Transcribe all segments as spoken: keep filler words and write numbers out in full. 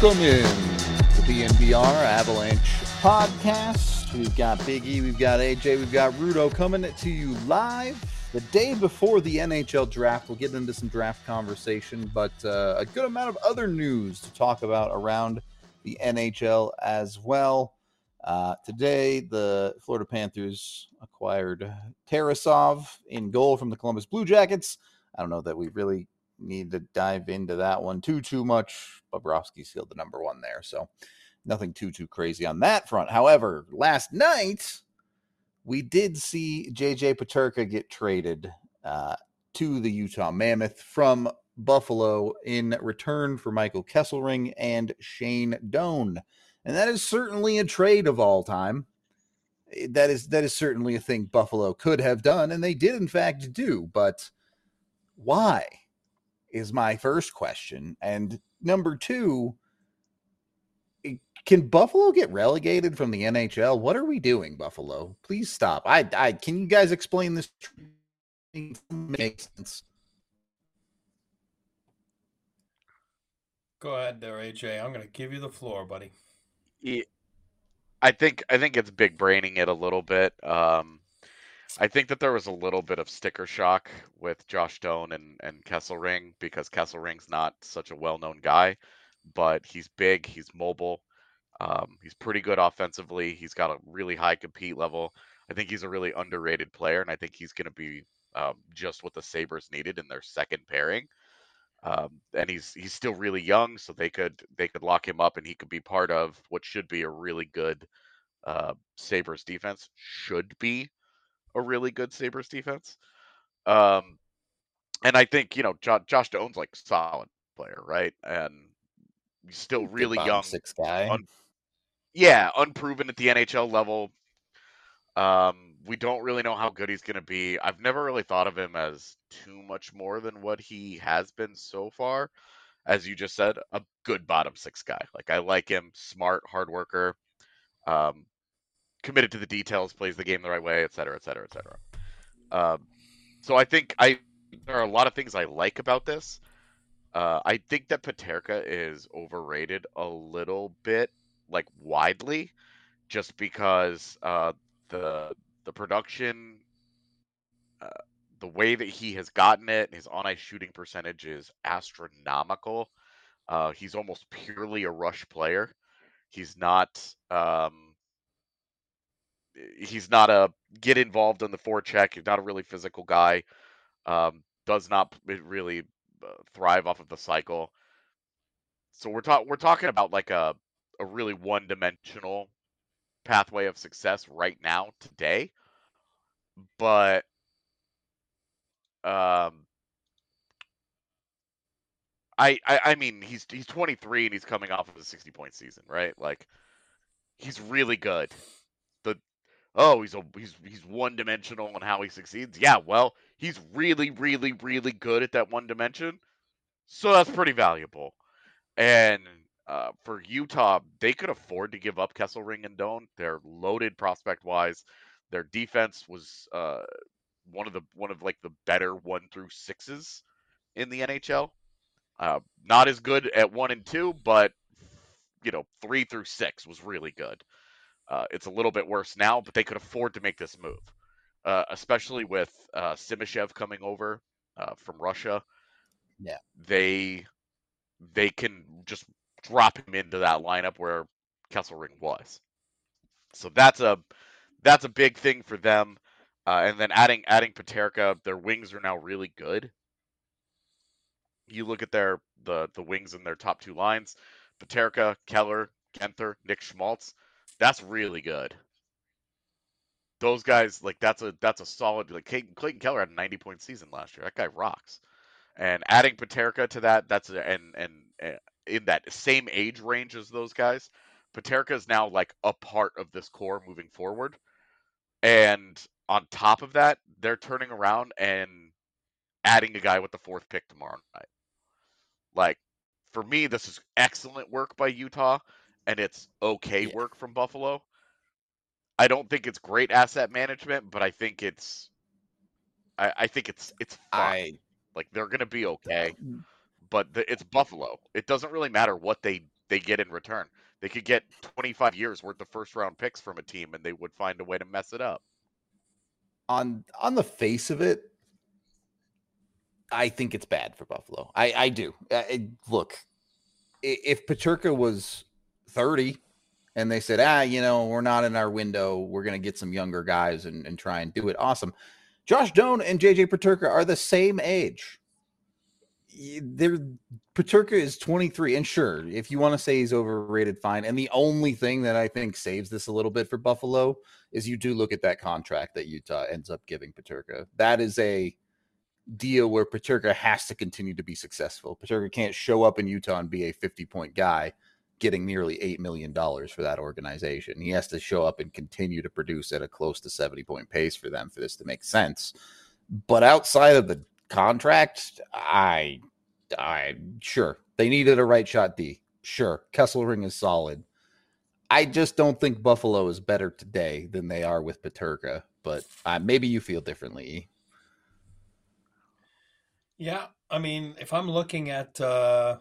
Welcome in to the B N B R Avalanche podcast. We've got Big E, we've got A J, we've got Rudo coming to you live the day before the N H L draft. We'll get into some draft conversation, but uh, a good amount of other news to talk about around the N H L as well. Uh, today, the Florida Panthers acquired Tarasov in goal from the Columbus Blue Jackets. I don't know that we really need to dive into that one too, too much. Bobrovsky's still the number one there, so nothing too, too crazy on that front. However, last night, we did see J J Peterka get traded uh, to the Utah Mammoth from Buffalo in return for Michael Kesselring and Shane Doan. And that is certainly a trade of all time. That is that is certainly a thing Buffalo could have done, and they did in fact do. But why is my first question. And number two, can Buffalo get relegated from the N H L? What are we doing, Buffalo? Please stop. I, I can you guys explain this? Makes sense. Go ahead there, A J. I'm going to give you the floor, buddy. Yeah, I think I think it's big braining it a little bit. Um, I think that there was a little bit of sticker shock with Josh Doan and, and Kesselring because Kesselring's not such a well-known guy, but he's big, he's mobile, um, he's pretty good offensively, he's got a really high compete level. I think he's a really underrated player, and I think he's going to be um, just what the Sabres needed in their second pairing. Um, and he's he's still really young, so they could they could lock him up, and he could be part of what should be a really good uh, Sabres defense. Should be a really good Sabres defense. Um, and I think, you know, jo- Josh Doan's like a solid player, right? And he's still really Good young. six guy. Un- yeah, unproven at the N H L level. Um, we don't really know how good he's going to be. I've never really thought of him as too much more than what he has been so far. As you just said, a good bottom six guy. Like, I like him, smart, hard worker, um, committed to the details, plays the game the right way, et cetera, et cetera, et cetera. Um, so I think I there are a lot of things I like about this. Uh, I think that Peterka is overrated a little bit, like widely, just because uh, the the production, uh, the way that he has gotten it, his on ice shooting percentage is astronomical. Uh, he's almost purely a rush player. He's not. Um, he's not a get involved in the forecheck. He's not a really physical guy. Um, does not really uh, thrive off of the cycle. So we're talking we're talking about like a a really one dimensional pathway of success right now today. But um, I, I I mean he's he's twenty-three and he's coming off of a sixty point season, right? Like he's really good. The oh he's a he's he's one dimensional on how he succeeds. Yeah, well he's really really really good at that one dimension. So that's pretty valuable. And uh, for Utah, they could afford to give up Kesselring and Doan. They're loaded prospect wise. Their defense was uh, one of the one of like the better one through sixes in the N H L. Uh, not as good at one and two, but you know three through six was really good. Uh, it's a little bit worse now, but they could afford to make this move, uh, especially with uh, Simashev coming over uh, from Russia. Yeah, they they can just drop him into that lineup where Kesselring was. So that's a that's a big thing for them. Uh, and then adding adding Peterka, their wings are now really good. You look at their the the wings in their top two lines, Peterka, Keller, Genther, Nick Schmaltz. That's really good. Those guys, like that's a that's a solid like Clayton, Clayton Keller had a ninety point season last year. That guy rocks. And adding Peterka to that, that's a, and and uh, in that same age range as those guys, Peterka is now like a part of this core moving forward. And on top of that, they're turning around and adding a guy with the fourth pick tomorrow night. Like for me, this is excellent work by Utah, and it's okay yeah. work from Buffalo. I don't think it's great asset management, but I think it's I, I think it's it's fine. I Like they're gonna be okay. But the, it's Buffalo. It doesn't really matter what they they get in return. They could get twenty-five years worth of first round picks from a team, and they would find a way to mess it up. On on the face of it, I think it's bad for Buffalo. I, I do. I, look, if Peterka was thirty and they said, ah, you know, we're not in our window, we're going to get some younger guys and, and try and do it. Awesome. Josh Doan and J J Peterka are the same age. They're, Peterka is twenty-three, and sure, if you want to say he's overrated, fine. And the only thing that I think saves this a little bit for Buffalo is you do look at that contract that Utah ends up giving Peterka. That is a deal where Peterka has to continue to be successful. Peterka can't show up in Utah and be a fifty-point guy getting nearly eight million dollars for that organization. He has to show up and continue to produce at a close to seventy-point pace for them for this to make sense. But outside of the contract, I, I sure they needed a right shot D. Sure, Kesselring is solid. I just don't think Buffalo is better today than they are with Peterka. But uh, maybe you feel differently. Yeah, I mean, if I'm looking at uh,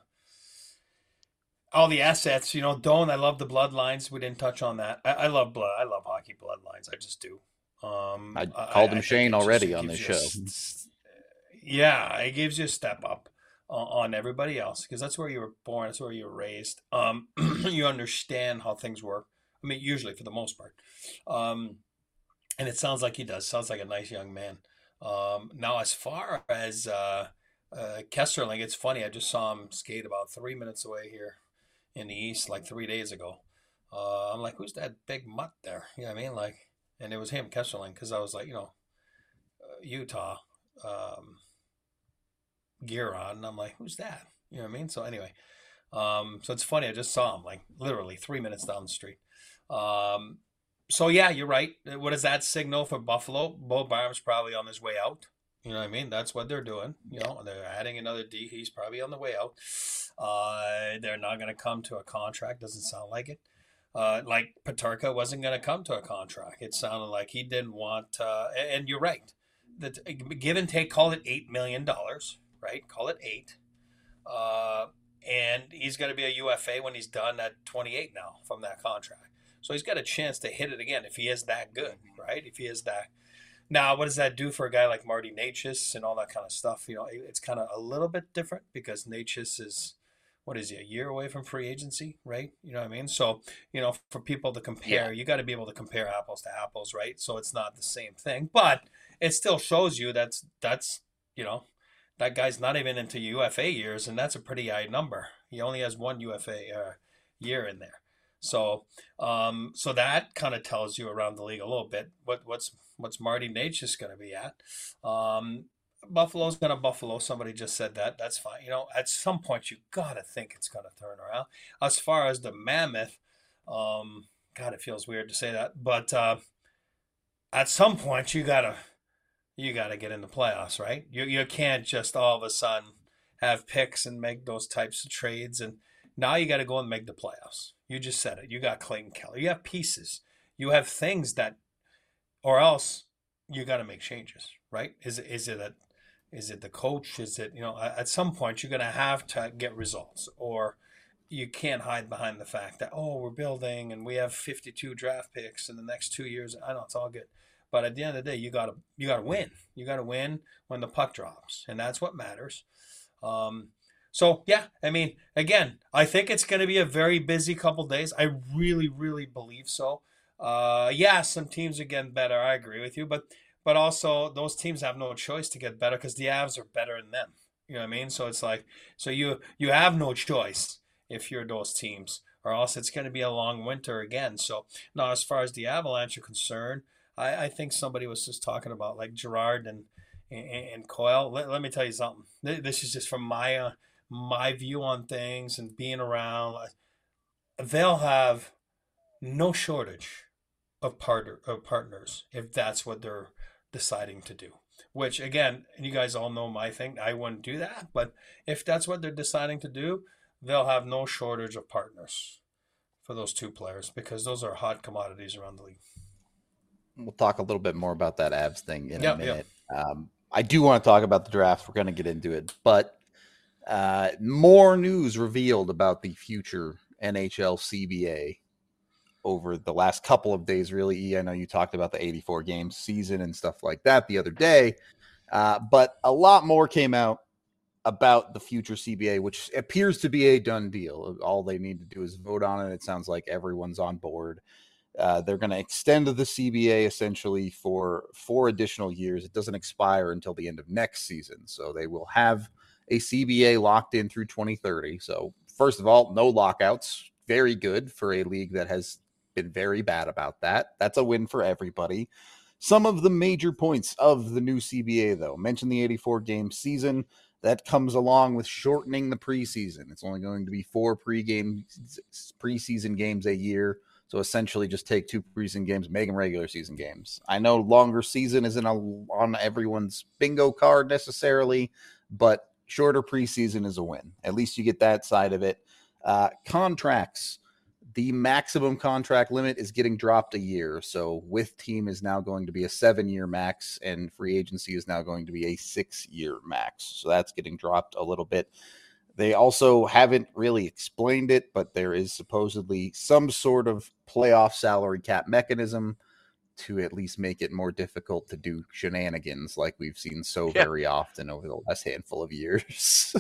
all the assets, you know, Doan, I love the bloodlines. We didn't touch on that. I, I love blood. I love hockey bloodlines. I just do. Um, I called him I, Shane I already just, on this show. A, yeah, it gives you a step up on, on everybody else because that's where you were born. That's where you were raised. Um, you understand how things work. I mean, usually for the most part. Um, and it sounds like he does. Sounds like a nice young man. Um, now, as far as uh, uh, Kesselring, it's funny. I just saw him skate about three minutes away here in the East like three days ago. Uh, I'm like, who's that big mutt there? You know what I mean? Like, and it was him, Kesselring, because I was like, you know, uh, Utah um, gear on. And I'm like, who's that? You know what I mean? So anyway, um, so it's funny. I just saw him like literally three minutes down the street. Um, So, yeah, you're right. What does that signal for Buffalo? Bo Barham's probably on his way out. You know what I mean? That's what they're doing. You know, they're adding another D. He's probably on the way out. Uh, they're not going to come to a contract. Doesn't sound like it. Uh, like Peterka wasn't going to come to a contract. It sounded like he didn't want uh, – and you're right. The, give and take, call it eight million dollars, right? Call it eight. Uh, and he's going to be a U F A when he's done at twenty-eight now from that contract. So he's got a chance to hit it again if he is that good, right? If he is that. Now, what does that do for a guy like Marty Necas and all that kind of stuff? You know, it's kind of a little bit different because Necas is, what is he, a year away from free agency, right? You know what I mean? So, you know, for people to compare, yeah. you got to be able to compare apples to apples, right? So it's not the same thing, but it still shows you that's, that's, you know, that guy's not even into U F A years, and that's a pretty high number. He only has one U F A uh, year in there. So, um, so that kind of tells you around the league a little bit what what's what's Marty Necas going to be at. Um, Buffalo's going to Buffalo. Somebody just said that. That's fine. You know, at some point you got to think it's going to turn around. As far as the Mammoth, um, God, it feels weird to say that, but uh, at some point you gotta you gotta get in the playoffs, right? You you can't just all of a sudden have picks and make those types of trades, and now you got to go and make the playoffs. You just said it. You got Clayton Keller. You have pieces. You have things that, or else you got to make changes, right? Is it is it a, is it the coach? Is it, you know, at some point you're going to have to get results, or you can't hide behind the fact that, oh, we're building and we have fifty-two draft picks in the next two years. I know it's all good, but at the end of the day, you got to you got to win. You got to win when the puck drops, and that's what matters. Um, So, yeah, I mean, again, I think it's going to be a very busy couple days. I really, really believe so. Uh, yeah, some teams are getting better. I agree with you. But but also those teams have no choice to get better because the Avs are better than them. You know what I mean? So it's like, so you you have no choice if you're those teams, or else it's going to be a long winter again. So now as far as the Avalanche are concerned, I, I think somebody was just talking about like Gerard and, and, and Coyle. Let, let me tell you something. This is just from my uh, my view on things and being around. They'll have no shortage of partner of partners if that's what they're deciding to do. Which again, you guys all know my thing. I wouldn't do that, but if that's what they're deciding to do, they'll have no shortage of partners for those two players because those are hot commodities around the league. We'll talk a little bit more about that Avs thing in yep, a minute. Yep. Um, I do want to talk about the draft. We're going to get into it, but uh, more news revealed about the future N H L C B A over the last couple of days, really. E, I know you talked about the eighty-four game season and stuff like that the other day, uh, but a lot more came out about the future C B A, which appears to be a done deal. All they need to do is vote on it. It sounds like everyone's on board. Uh, they're going to extend the C B A essentially for four additional years. It doesn't expire until the end of next season. So they will have a C B A locked in through twenty thirty. So first of all, no lockouts. Very good for a league that has been very bad about that. That's a win for everybody. Some of the major points of the new C B A, though, mentioned the eighty-four game season. That comes along with shortening the preseason. It's only going to be four pre-game preseason games a year. So essentially just take two preseason games, make them regular season games. I know longer season isn't a, on everyone's bingo card necessarily, but shorter preseason is a win. At least you get that side of it. Uh, contracts. The maximum contract limit is getting dropped a year. So with team is now going to be a seven-year max, and free agency is now going to be a six-year max. So that's getting dropped a little bit. They also haven't really explained it, but there is supposedly some sort of playoff salary cap mechanism to at least make it more difficult to do shenanigans like we've seen so Yeah. very often over the last handful of years.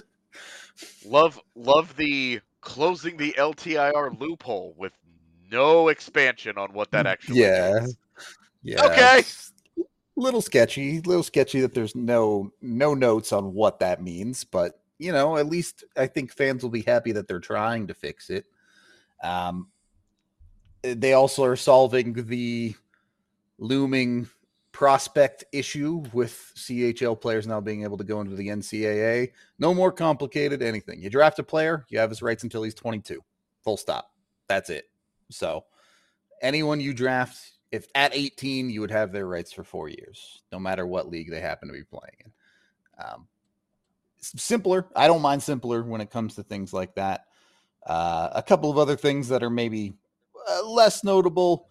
Love love the closing the L T I R loophole with no expansion on what that actually yeah. means. Yeah. Okay. It's a little sketchy, little sketchy that there's no no notes on what that means, but you know, at least I think fans will be happy that they're trying to fix it. Um, they also are solving the looming prospect issue with C H L players now being able to go into the N C double A. No more complicated anything. You draft a player, you have his rights until he's twenty-two. Full stop. That's it. So anyone you draft, if at eighteen, you would have their rights for four years, no matter what league they happen to be playing in. Um, simpler. I don't mind simpler when it comes to things like that. Uh, a couple of other things that are maybe uh, less notable.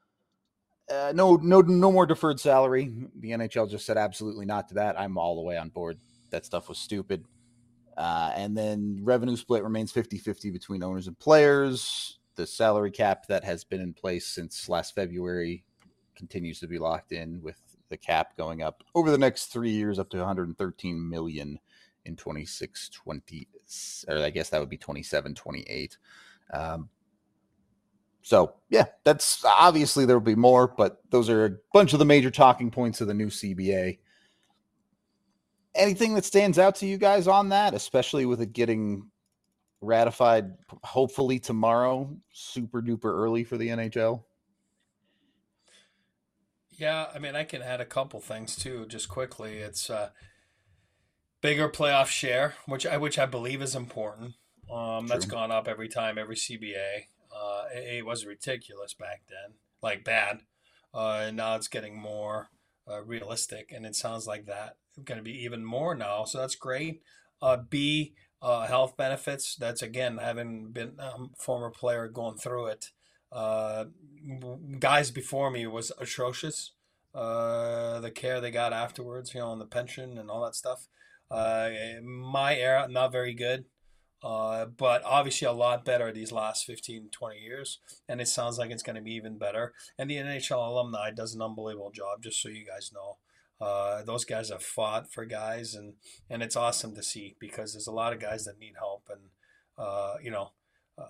Uh, no, no, no more deferred salary. The N H L just said absolutely not to that. I'm all the way on board. That stuff was stupid. Uh, and then revenue split remains fifty-fifty between owners and players. The salary cap that has been in place since last February continues to be locked in, with the cap going up over the next three years up to one hundred thirteen million in twenty-six twenty, or I guess that would be twenty-seven twenty-eight. Um, so, yeah, that's obviously there will be more, but those are a bunch of the major talking points of the new C B A. Anything that stands out to you guys on that, especially with it getting ratified hopefully tomorrow, super duper early for the N H L? Yeah, I mean, I can add a couple things too, just quickly. It's uh, bigger playoff share, which I which I believe is important. Um, that's gone up every time, every C B A. Uh, it, it was ridiculous back then, like bad, uh, and now it's getting more uh, realistic, and it sounds like that going to be even more now. So that's great. Uh, B, uh, health benefits. That's again, having been a um, former player going through it. Uh, guys before me was atrocious. Uh, the care they got afterwards, you know, and the pension and all that stuff. Uh, my era, not very good. Uh, but obviously a lot better these last fifteen, twenty years. And it sounds like it's going to be even better. And the N H L alumni does an unbelievable job, just so you guys know. Uh, those guys have fought for guys, and, and it's awesome to see, because there's a lot of guys that need help. And, uh, you know, uh,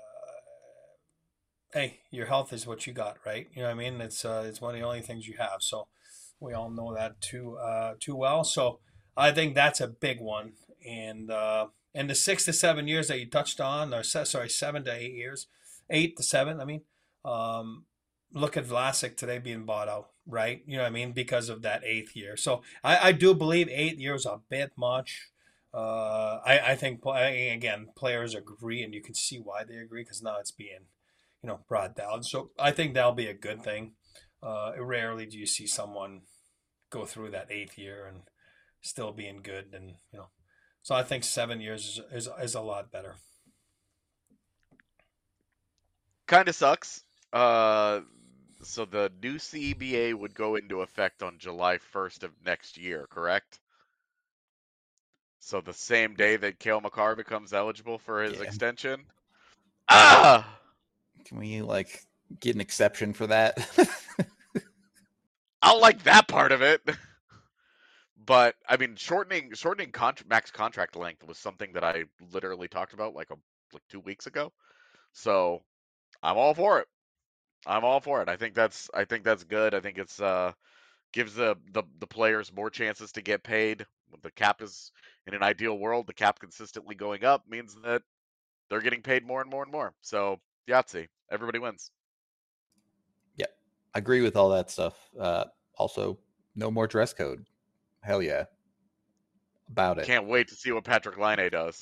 hey, your health is what you got, right? You know what I mean? It's uh, it's one of the only things you have. So we all know that too uh, too well. So I think that's a big one. And uh, and the six to seven years that you touched on, or sorry, seven to eight years, eight to seven. I mean, um, look at Vlasic today being bought out, right? You know what I mean? Because of that eighth year. So I, I do believe eight years a bit much. Uh, I I think again players agree, and you can see why they agree, because now it's being, you know, brought down. So I think that'll be a good thing. Uh, rarely do you see someone go through that eighth year and still being good, and you know. So I think seven years is is, is a lot better. Kind of sucks. Uh, so the new C B A would go into effect on July first of next year, correct? So the same day that Cale Makar becomes eligible for his Yeah. extension. Ah! Can we like get an exception for that? I don't like that part of it. But I mean, shortening shortening con- max contract length was something that I literally talked about like a like two weeks ago. So I'm all for it. I'm all for it. I think that's I think that's good. I think it's uh gives the, the the players more chances to get paid. The cap is in an ideal world, the cap consistently going up means that they're getting paid more and more and more. So Yahtzee, everybody wins. Yeah, I agree with all that stuff. Uh, also, no more dress code. Hell yeah, about it. Can't wait to see what Patrick Laine does.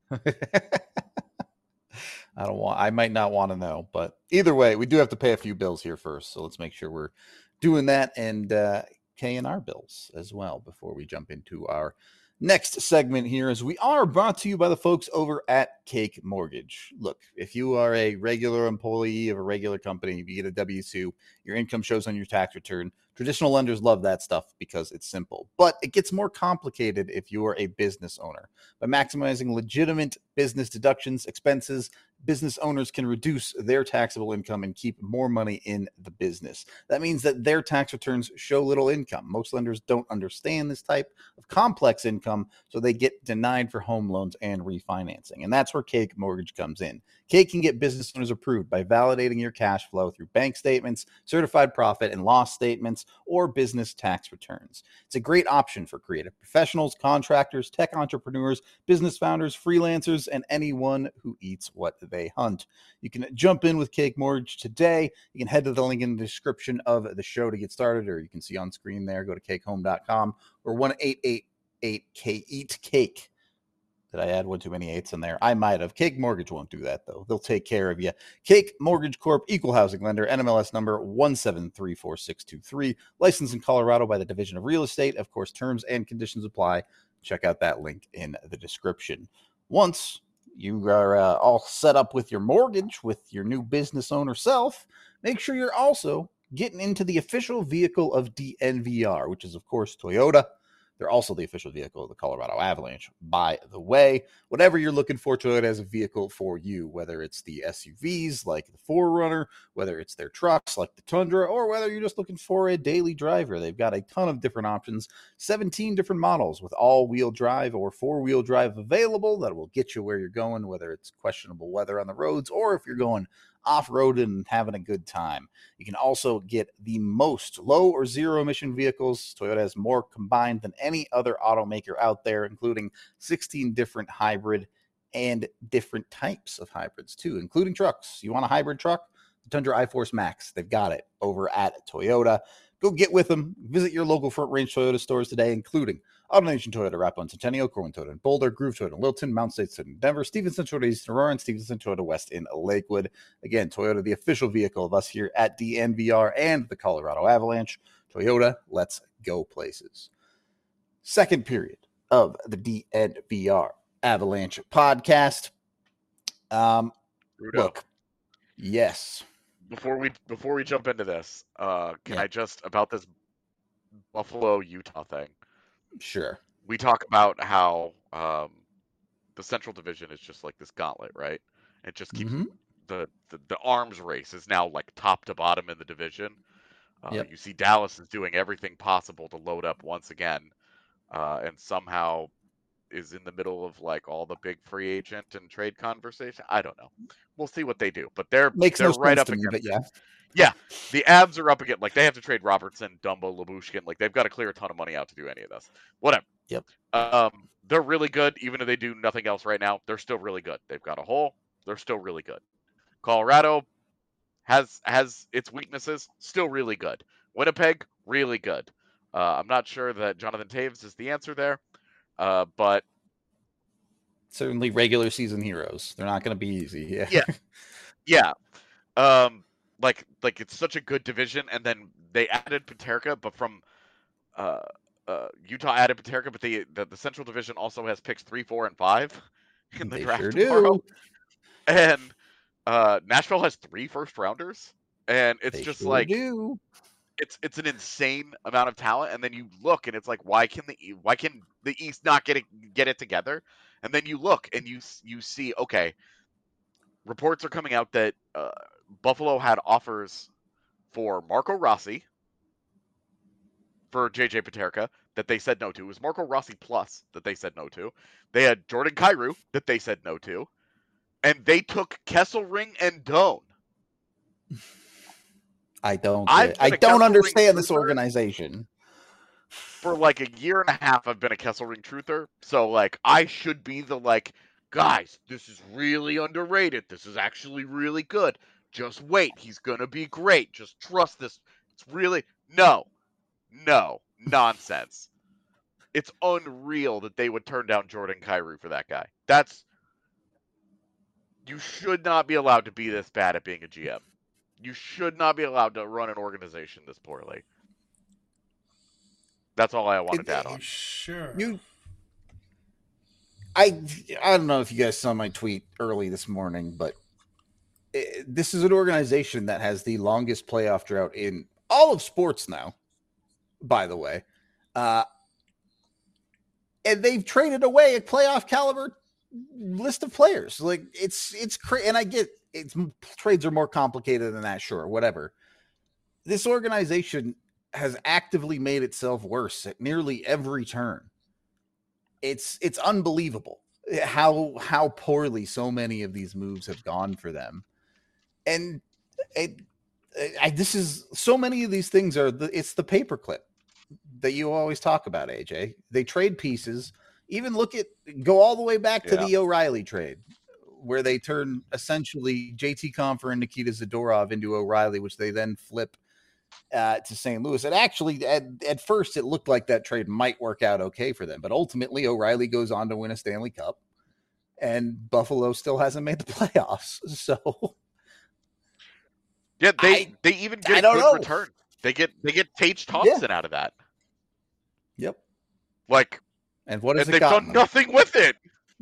I don't want. I might not want to know, but either way, we do have to pay a few bills here first. So let's make sure we're doing that and uh, paying our bills as well before we jump into our next segment here. As we are brought to you by the folks over at Cake Mortgage. Look, if you are a regular employee of a regular company, you get a W two, your income shows on your tax return. Traditional lenders love that stuff because it's simple, but it gets more complicated if you are a business owner. By maximizing legitimate business deductions, expenses, business owners can reduce their taxable income and keep more money in the business. That means that their tax returns show little income. Most lenders don't understand this type of complex income, so they get denied for home loans and refinancing. And that's where Cake Mortgage comes in. Cake can get business owners approved by validating your cash flow through bank statements, certified profit and loss statements, or business tax returns. It's a great option for creative professionals, contractors, tech entrepreneurs, business founders, freelancers, and anyone who eats what they hunt. You can jump in with Cake Mortgage today. You can head to the link in the description of the show to get started, or you can see on screen there. Go to cake home dot com or one eight eight eight K eat cake. Did I add one too many eights in there? I might have. Cake Mortgage won't do that, though. They'll take care of you. Cake Mortgage Corp, equal housing lender, N M L S number one seven three four six two three, licensed in Colorado by the Division of Real Estate. Of course, terms and conditions apply. Check out that link in the description. Once you are uh, all set up with your mortgage, with your new business owner self, make sure you're also getting into the official vehicle of D N V R, which is, of course, Toyota. They're also the official vehicle of the Colorado Avalanche, by the way. Whatever you're looking for, Toyota has a vehicle for you, whether it's the S U Vs like the four runner, whether it's their trucks like the Tundra, or whether you're just looking for a daily driver. They've got a ton of different options, seventeen different models with all-wheel drive or four-wheel drive available that will get you where you're going, whether it's questionable weather on the roads or if you're going off-road and having a good time. You can also get the most low or zero emission vehicles. Toyota has more combined than any other automaker out there, including sixteen different hybrid and different types of hybrids too, including trucks. You want a hybrid truck? The Tundra iForce Max. They've got it over at Toyota. Go get with them. Visit your local Front Range Toyota stores today, including AutoNation Toyota, Rapo Centennial, Corwin Toyota in Boulder, Groove Toyota in Wilton, Mount State Toyota in Denver, Stevenson Toyota East in Aurora, and Stevenson Toyota West in Lakewood. Again, Toyota, the official vehicle of us here at D N V R and the Colorado Avalanche. Toyota, let's go places. Second period of the D N V R Avalanche podcast. Um, Rudo, look, yes. before we before we jump into this, uh, can Yeah. I just about this Buffalo Utah thing? Sure. We talk about how um, the Central Division is just like this gauntlet, right? It just keeps Mm-hmm. the, the the arms race is now like top to bottom in the division. Uh, Yep. You see Dallas is doing everything possible to load up once again, uh, and somehow is in the middle of like all the big free agent and trade conversation. I don't know. We'll see what they do, but they're Makes they're no right sense up to me, against. but yeah. Yeah, the Abs are up against, like, they have to trade Robertson, Dumbo, Labushkin. Like, they've got to clear a ton of money out to do any of this. Whatever. Yep. Um, they're really good, even if they do nothing else right now. They're still really good. They've got a hole. They're still really good. Colorado has has its weaknesses. Still really good. Winnipeg, really good. Uh, I'm not sure that Jonathan Taves is the answer there, uh, but Certainly regular season heroes. They're not going to be easy. Yeah. yeah, yeah. Um, like like it's such a good division, and then they added Paterka, but from uh, uh, Utah added Paterka, but the, the the Central Division also has picks three, four, and five in the They draft sure tomorrow, do. and uh, Nashville has three first rounders, and it's They just sure like do. it's it's an insane amount of talent, and then you look, and it's like, why can the E- why can the East not get it get it together? And then you look, and you you see, okay, reports are coming out that uh, Buffalo had offers for Marco Rossi, for J J Paterka, that they said no to. It was Marco Rossi plus that they said no to. They had Jordan Kyrou that they said no to. And they took Kesselring and Doan. I don't get, I don't understand this organization. For like a year and a half, I've been a Kesselring truther. So, like, I should be the, like, guys, this is really underrated. This is actually really good. Just wait. He's going to be great. Just trust this. It's really... No. No. Nonsense. It's unreal that they would turn down Jordan Kyrou for that guy. That's... You should not be allowed to be this bad at being a G M. You should not be allowed to run an organization this poorly. That's all I wanted it, to add on. Sure. You, I, I don't know if you guys saw my tweet early this morning, but it, this is an organization that has the longest playoff drought in all of sports now, by the way. Uh, and they've traded away a playoff caliber list of players. Like it's, it's crazy. And I get it's trades are more complicated than that. Sure. Whatever. This organization has actively made itself worse at nearly every turn. It's it's unbelievable how how poorly so many of these moves have gone for them. And it, I, this is so many of these things are the, it's the paperclip that you always talk about, A J. They trade pieces. Even look at go all the way back to yeah. the O'Reilly trade, where they turn essentially J T Compher and Nikita Zadorov into O'Reilly, which they then flip Uh, to Saint Louis. And actually, at, at first, it looked like that trade might work out okay for them. But ultimately, O'Reilly goes on to win a Stanley Cup, and Buffalo still hasn't made the playoffs. So, yeah, they I, they even get I a don't good know. return. They get they get Tage Thompson yeah. out of that. Yep. Like, and what has and it they've done them? nothing with it.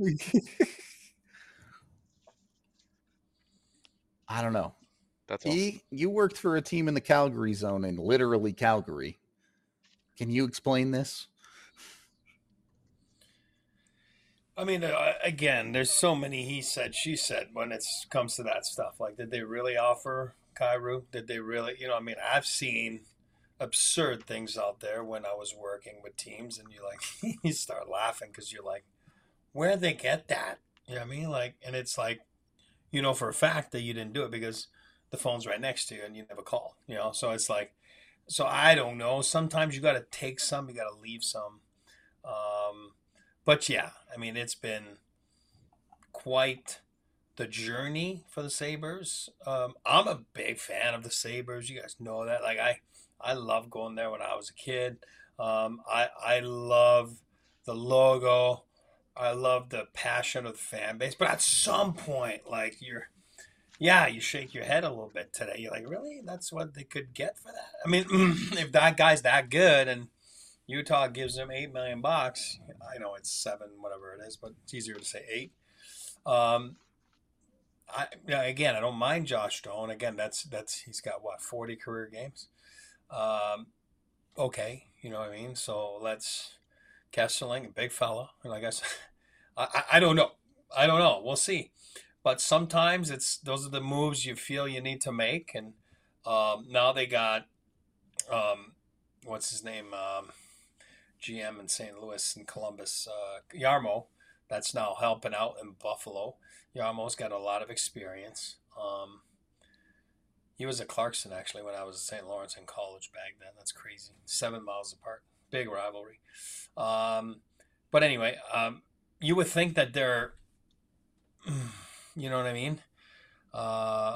I don't know. That's E, you worked for a team in the Calgary zone in literally Calgary. Can you explain this? I mean, uh, again, there's so many he said, she said when it comes to that stuff. Like, did they really offer Kyrou? Did they really, you know, I mean, I've seen absurd things out there when I was working with teams, and you like, you start laughing because you're like, where'd they get that? You know what I mean? Like, and it's like, you know, for a fact that you didn't do it because the phone's right next to you and you never call, you know? So it's like, so I don't know. Sometimes you got to take some, you got to leave some. Um, but yeah, I mean, it's been quite the journey for the Sabres. Um, I'm a big fan of the Sabres. You guys know that. Like I, I love going there when I was a kid. Um, I, I love the logo. I love the passion of the fan base, but at some point, like you're, yeah, you shake your head a little bit today. You're like, really? That's what they could get for that? I mean, if that guy's that good and Utah gives him eight million bucks, I know it's seven, whatever it is, but it's easier to say eight. Um, I you know, again, I don't mind Josh Doan. Again, that's that's he's got what forty career games. Um, okay, you know what I mean. So let's Kesselring, a big fella, and I guess I, I I don't know. I don't know. We'll see. But sometimes it's those are the moves you feel you need to make, and um, now they got um, what's his name, um, G M in Saint Louis and Columbus, uh, Yarmo. That's now helping out in Buffalo. Yarmo's got a lot of experience. Um, he was at Clarkson actually when I was at Saint Lawrence in college back then. That's crazy. Seven miles apart, big rivalry. Um, but anyway, um, you would think that they're. You know what I mean? Uh,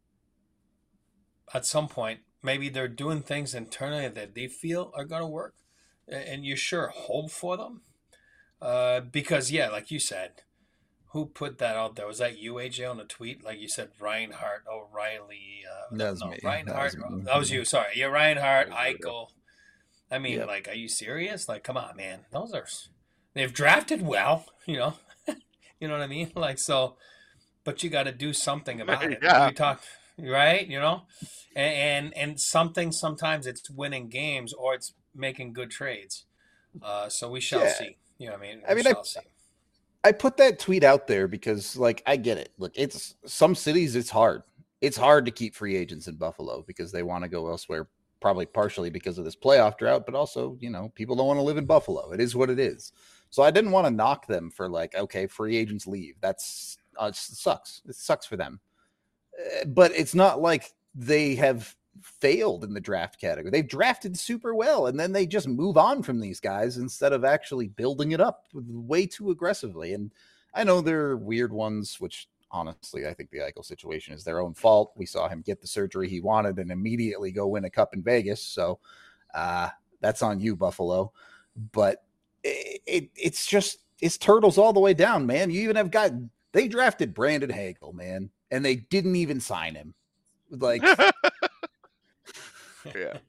at some point, maybe they're doing things internally that they feel are going to work. And you sure hope for them. Uh, because, yeah, like you said, who put that out there? Was that you, A J, on a tweet? Like you said, Reinhart, O'Reilly. Uh, that was no, me. Reinhart. That was, that was you. Sorry. Yeah, Reinhart, That was Eichel. I mean, Yep. like, are you serious? Like, come on, man. Those are... They've drafted well, you know. You know what I mean? Like, so... But you got to do something about it. Yeah. You talk, right? You know, and, and and something. Sometimes it's winning games or it's making good trades. Uh, so we shall Yeah. see. You know what I mean? I we mean, I- shall see. I put that tweet out there because, like, I get it. Look, it's some cities, it's hard. It's hard to keep free agents in Buffalo because they want to go elsewhere, probably partially because of this playoff drought, but also, you know, people don't want to live in Buffalo. It is what it is. So I didn't want to knock them for, like, okay, free agents leave. That's uh, it sucks. It sucks for them. Uh, but it's not like they have failed in the draft category. They've drafted super well, and then they just move on from these guys instead of actually building it up way too aggressively. And I know there are weird ones, which honestly, I think the Eichel situation is their own fault. We saw him get the surgery he wanted and immediately go win a cup in Vegas. So uh, that's on you, Buffalo. But it, it, it's just, it's turtles all the way down, man. You even have got, they drafted Brandon Hagel, man, and they didn't even sign him. Like, yeah.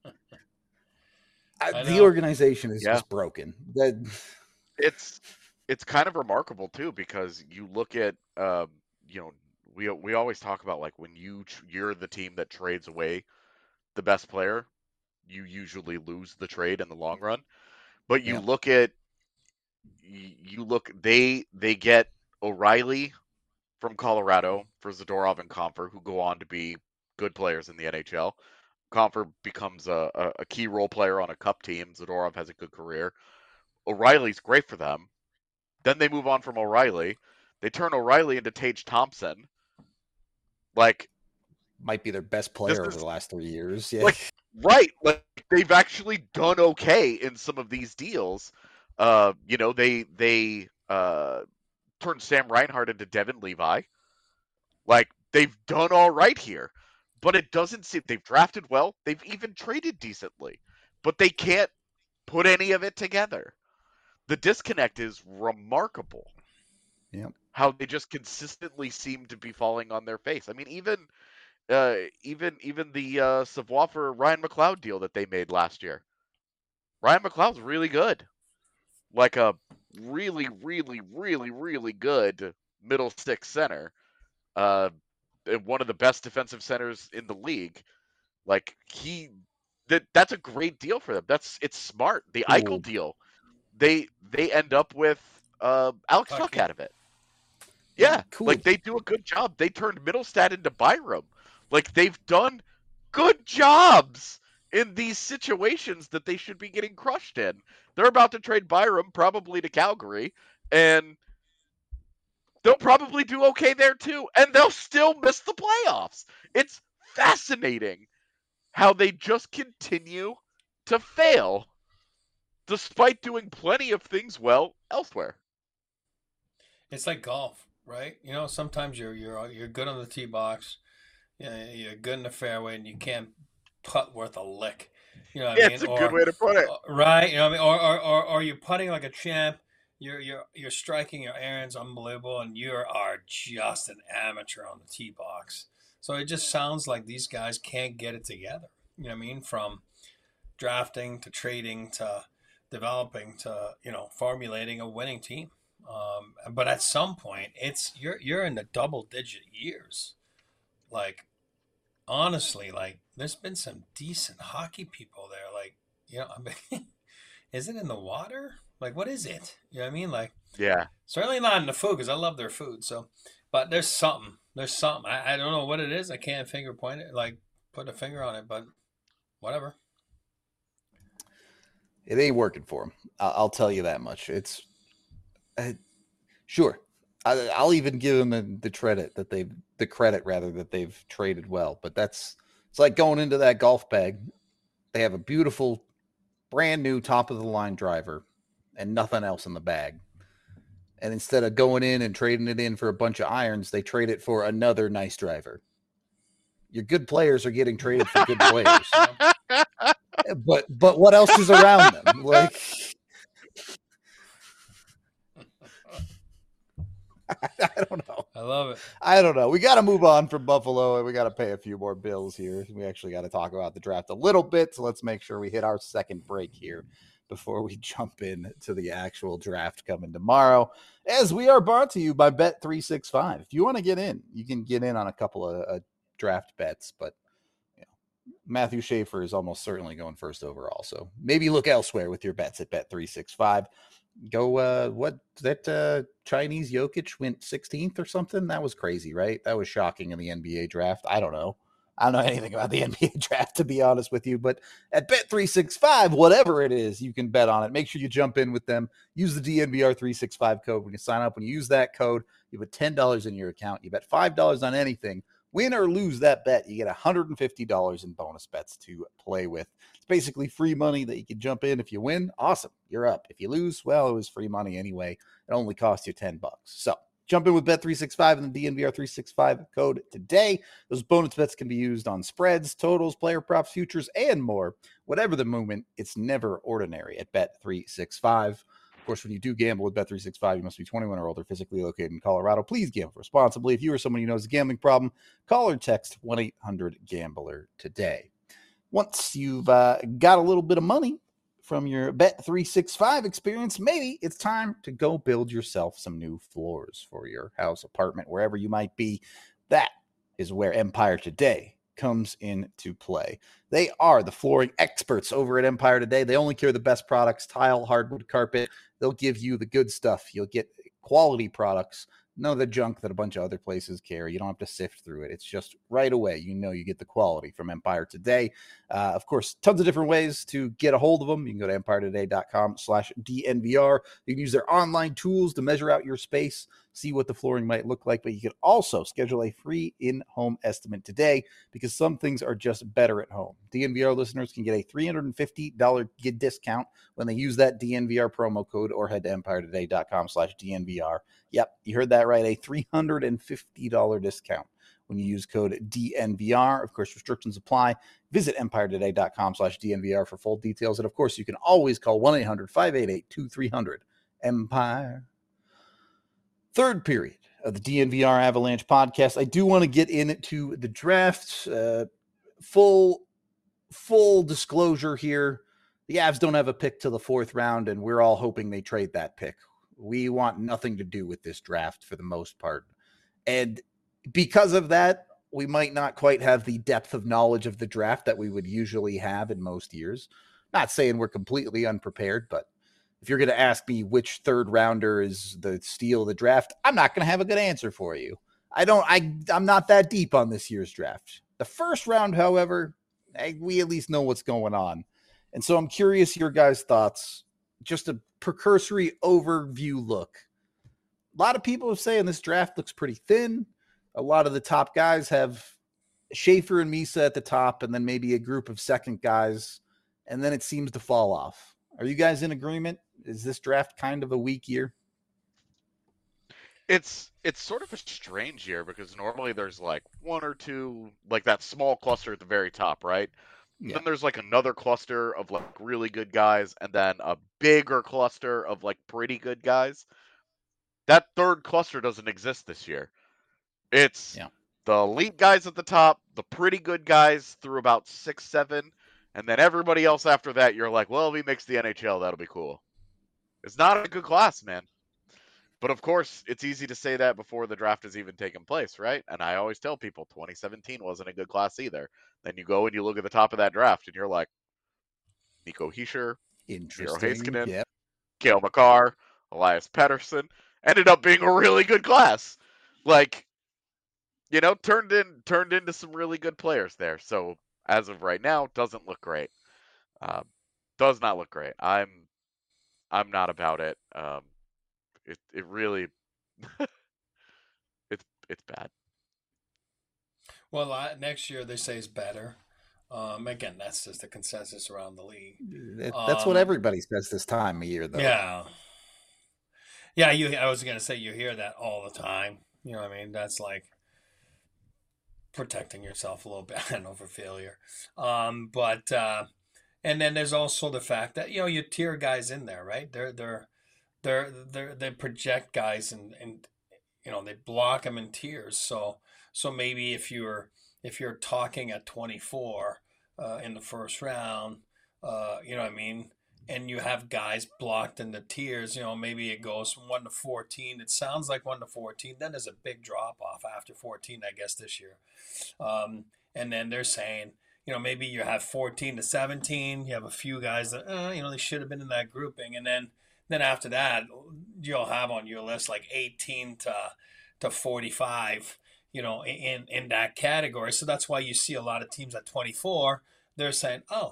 I, the organization is yeah. just broken. That it's it's kind of remarkable too, because you look at um, you know, we we always talk about, like, when you you're the team that trades away the best player, you usually lose the trade in the long run. But you yeah. look at you look they they get O'Reilly from Colorado for Zadorov and Compher, who go on to be good players in the N H L. Compher becomes a, a, a key role player on a cup team. Zadorov has a good career. O'Reilly's great for them. Then they move on from O'Reilly. They turn O'Reilly into Tage Thompson. Like, might be their best player over the last three years. Yeah. Like, right. Like, they've actually done okay in some of these deals. Uh, you know, they they uh, turned Sam Reinhart into Devin Levi. Like, they've done all right here. But it doesn't seem, they've drafted well. They've even traded decently. But they can't put any of it together. The disconnect is remarkable. Yeah. How they just consistently seem to be falling on their face. I mean, even uh, even even the uh, Savoie for Ryan McLeod deal that they made last year. Ryan McLeod's really good. Like a really, really, really, really good middle six center. Uh, one of the best defensive centers in the league. Like, he, that that's a great deal for them. That's it's smart. The cool. Eichel deal, they they end up with uh, Alex okay. Tuck out of it. Yeah, yeah cool. Like, they do a good job. They turned Middlestad into Byram. Like, they've done good jobs in these situations that they should be getting crushed in. They're about to trade Byram probably to Calgary, and they'll probably do okay there too, and they'll still miss the playoffs. It's fascinating how they just continue to fail despite doing plenty of things well elsewhere. It's like golf, right? You know, sometimes you're you're you're good on the tee box, you know, you're good in the fairway, and you can't putt worth a lick. You know what yeah, I mean? It's a or, good way to put it. Right? You know what I mean? Or or or, or you're putting like a champ. You're you're you're striking your irons unbelievable, and you are just an amateur on the tee box. So it just sounds like these guys can't get it together. You know what I mean? From drafting to trading to developing to, you know, formulating a winning team. Um, but at some point, it's you're you're in the double digit years. Like, honestly, like, there's been some decent hockey people there. Like, you know, I mean, is it in the water? Like, what is it? You know what I mean? Like, yeah, certainly not in the food, because I love their food. So, but there's something. There's something. I, I don't know what it is. I can't finger point it, like, put a finger on it, but whatever. It ain't working for them. I'll tell you that much. It's uh, sure. I, I'll even give them the, the credit that they've the credit rather that they've traded well. But that's it's like going into that golf bag. They have a beautiful, brand new top of the line driver and nothing else in the bag. And instead of going in and trading it in for a bunch of irons, they trade it for another nice driver. Your good players are getting traded for good players. But but what else is around them? Like, I, I don't know. I love it. I don't know. We got to move on from Buffalo, and we got to pay a few more bills here. We actually got to talk about the draft a little bit, so let's make sure we hit our second break here before we jump in to the actual draft coming tomorrow, as we are brought to you by Bet three sixty-five. If you want to get in, you can get in on a couple of uh, draft bets, but Matthew Schaefer is almost certainly going first overall. So maybe look elsewhere with your bets at Bet three sixty-five. Go, uh, what that uh, Chinese Jokic went sixteenth or something? That was crazy, right? That was shocking in the N B A draft. I don't know. I don't know anything about the N B A draft, to be honest with you. But at Bet three sixty-five, whatever it is, you can bet on it. Make sure you jump in with them. Use the D N V R three sixty-five code when you sign up. When you use that code, you put ten dollars in your account. You bet five dollars on anything. Win or lose that bet, you get one hundred fifty dollars in bonus bets to play with. It's basically free money that you can jump in. If you win, awesome, you're up. If you lose, well, it was free money anyway. It only cost you ten bucks. So jump in with Bet three sixty-five and the D N V R three sixty-five code today. Those bonus bets can be used on spreads, totals, player props, futures, and more. Whatever the movement, it's never ordinary at Bet three sixty-five. Of course, when you do gamble with Bet three sixty-five, you must be twenty-one or older, physically located in Colorado. Please gamble responsibly. If you or someone you know has a gambling problem, call or text one eight hundred gambler today. Once you've uh, got a little bit of money from your Bet three sixty-five experience, maybe it's time to go build yourself some new floors for your house, apartment, wherever you might be. That is where Empire Today comes into play. They are the flooring experts over at Empire Today. They only carry the best products, tile, hardwood, carpet. They'll give you the good stuff. You'll get quality products, none of the junk that a bunch of other places carry. You don't have to sift through it. It's just right away. You know you get the quality from Empire Today. Uh, of course, tons of different ways to get a hold of them. You can go to empire today dot com slash D N V R. You can use their online tools to measure out your space, see what the flooring might look like, but you can also schedule a free in-home estimate today because some things are just better at home. D N V R listeners can get a three hundred fifty dollars discount when they use that D N V R promo code or head to empire today dot com slash D N V R. Yep, you heard that right, a three hundred fifty dollars discount when you use code D N V R. Of course, restrictions apply. Visit empire today dot com slash D N V R for full details. And of course, you can always call one eight hundred five eight eight two three zero zero Empire. Third period of the D N V R Avalanche podcast. I do want to get into the draft. Uh, full, full disclosure here. The Avs don't have a pick till the fourth round, and we're all hoping they trade that pick. We want nothing to do with this draft for the most part. And because of that, we might not quite have the depth of knowledge of the draft that we would usually have in most years. Not saying we're completely unprepared, but if you're going to ask me which third rounder is the steal of the draft, I'm not going to have a good answer for you. I don't, I, I'm not that deep on this year's draft. The first round, however, I, we at least know what's going on. And so I'm curious your guys' thoughts. Just a precursory overview look. A lot of people are saying this draft looks pretty thin. A lot of the top guys have Schaefer and Misa at the top, and then maybe a group of second guys, and then it seems to fall off. Are you guys in agreement? Is this draft kind of a weak year? It's it's sort of a strange year because normally there's like one or two, like that small cluster at the very top, right? Yeah. Then there's like another cluster of like really good guys, and then a bigger cluster of like pretty good guys. That third cluster doesn't exist this year. It's yeah. the elite guys at the top, the pretty good guys through about six, seven, and then everybody else after that, you're like, well, if he makes the N H L, that'll be cool. It's not a good class, man. But of course, it's easy to say that before the draft has even taken place, right? And I always tell people twenty seventeen wasn't a good class either. Then you go and you look at the top of that draft, and you're like, Nico Hischier, Miro Heiskanen, Yep. Cale Makar, Elias Pettersson, ended up being a really good class. Like, you know, turned in turned into some really good players there. So as of right now, doesn't look great. Um, does not look great. I'm I'm not about it. Um, it it really it's it's bad. Well, uh, next year they say is better. Um, again, that's just the consensus around the league. That's um, what everybody says this time of year, though. Yeah, yeah. You, I was gonna say you hear that all the time. You know what I mean? That's like protecting yourself a little bit. I know for failure. Um, but uh, and then there's also the fact that you know you tier guys in there, right? They're they're they're they they project guys and and you know they block them in tiers. So so maybe if you're if you're talking at twenty-four uh, in the first round, uh, you know what I mean, and you have guys blocked in the tiers, you know, maybe it goes from one to fourteen. It sounds like one to fourteen. Then there's a big drop off after fourteen, I guess, this year. Um, and then they're saying, you know, maybe you have fourteen to seventeen. You have a few guys that, uh, you know, they should have been in that grouping. And then Then after that, you'll have on your list like eighteen to to forty-five, you know, in in that category. So that's why you see a lot of teams at twenty-four. They're saying, oh,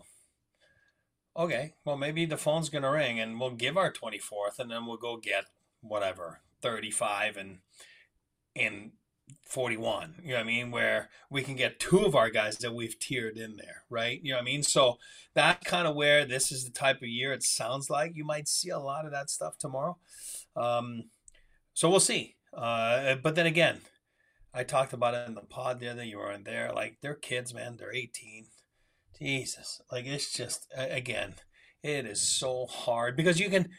okay, well, maybe the phone's going to ring and we'll give our twenty-fourth and then we'll go get whatever, thirty-five and in forty-one, you know what I mean? Where we can get two of our guys that we've tiered in there, right? You know what I mean? So that's kind of where this is the type of year it sounds like you might see a lot of that stuff tomorrow. Um, so we'll see. Uh, but then again, I talked about it in the pod the other day. You weren't there. Like, they're kids, man. They're eighteen. Jesus. Like, it's just, again, it is so hard because you can,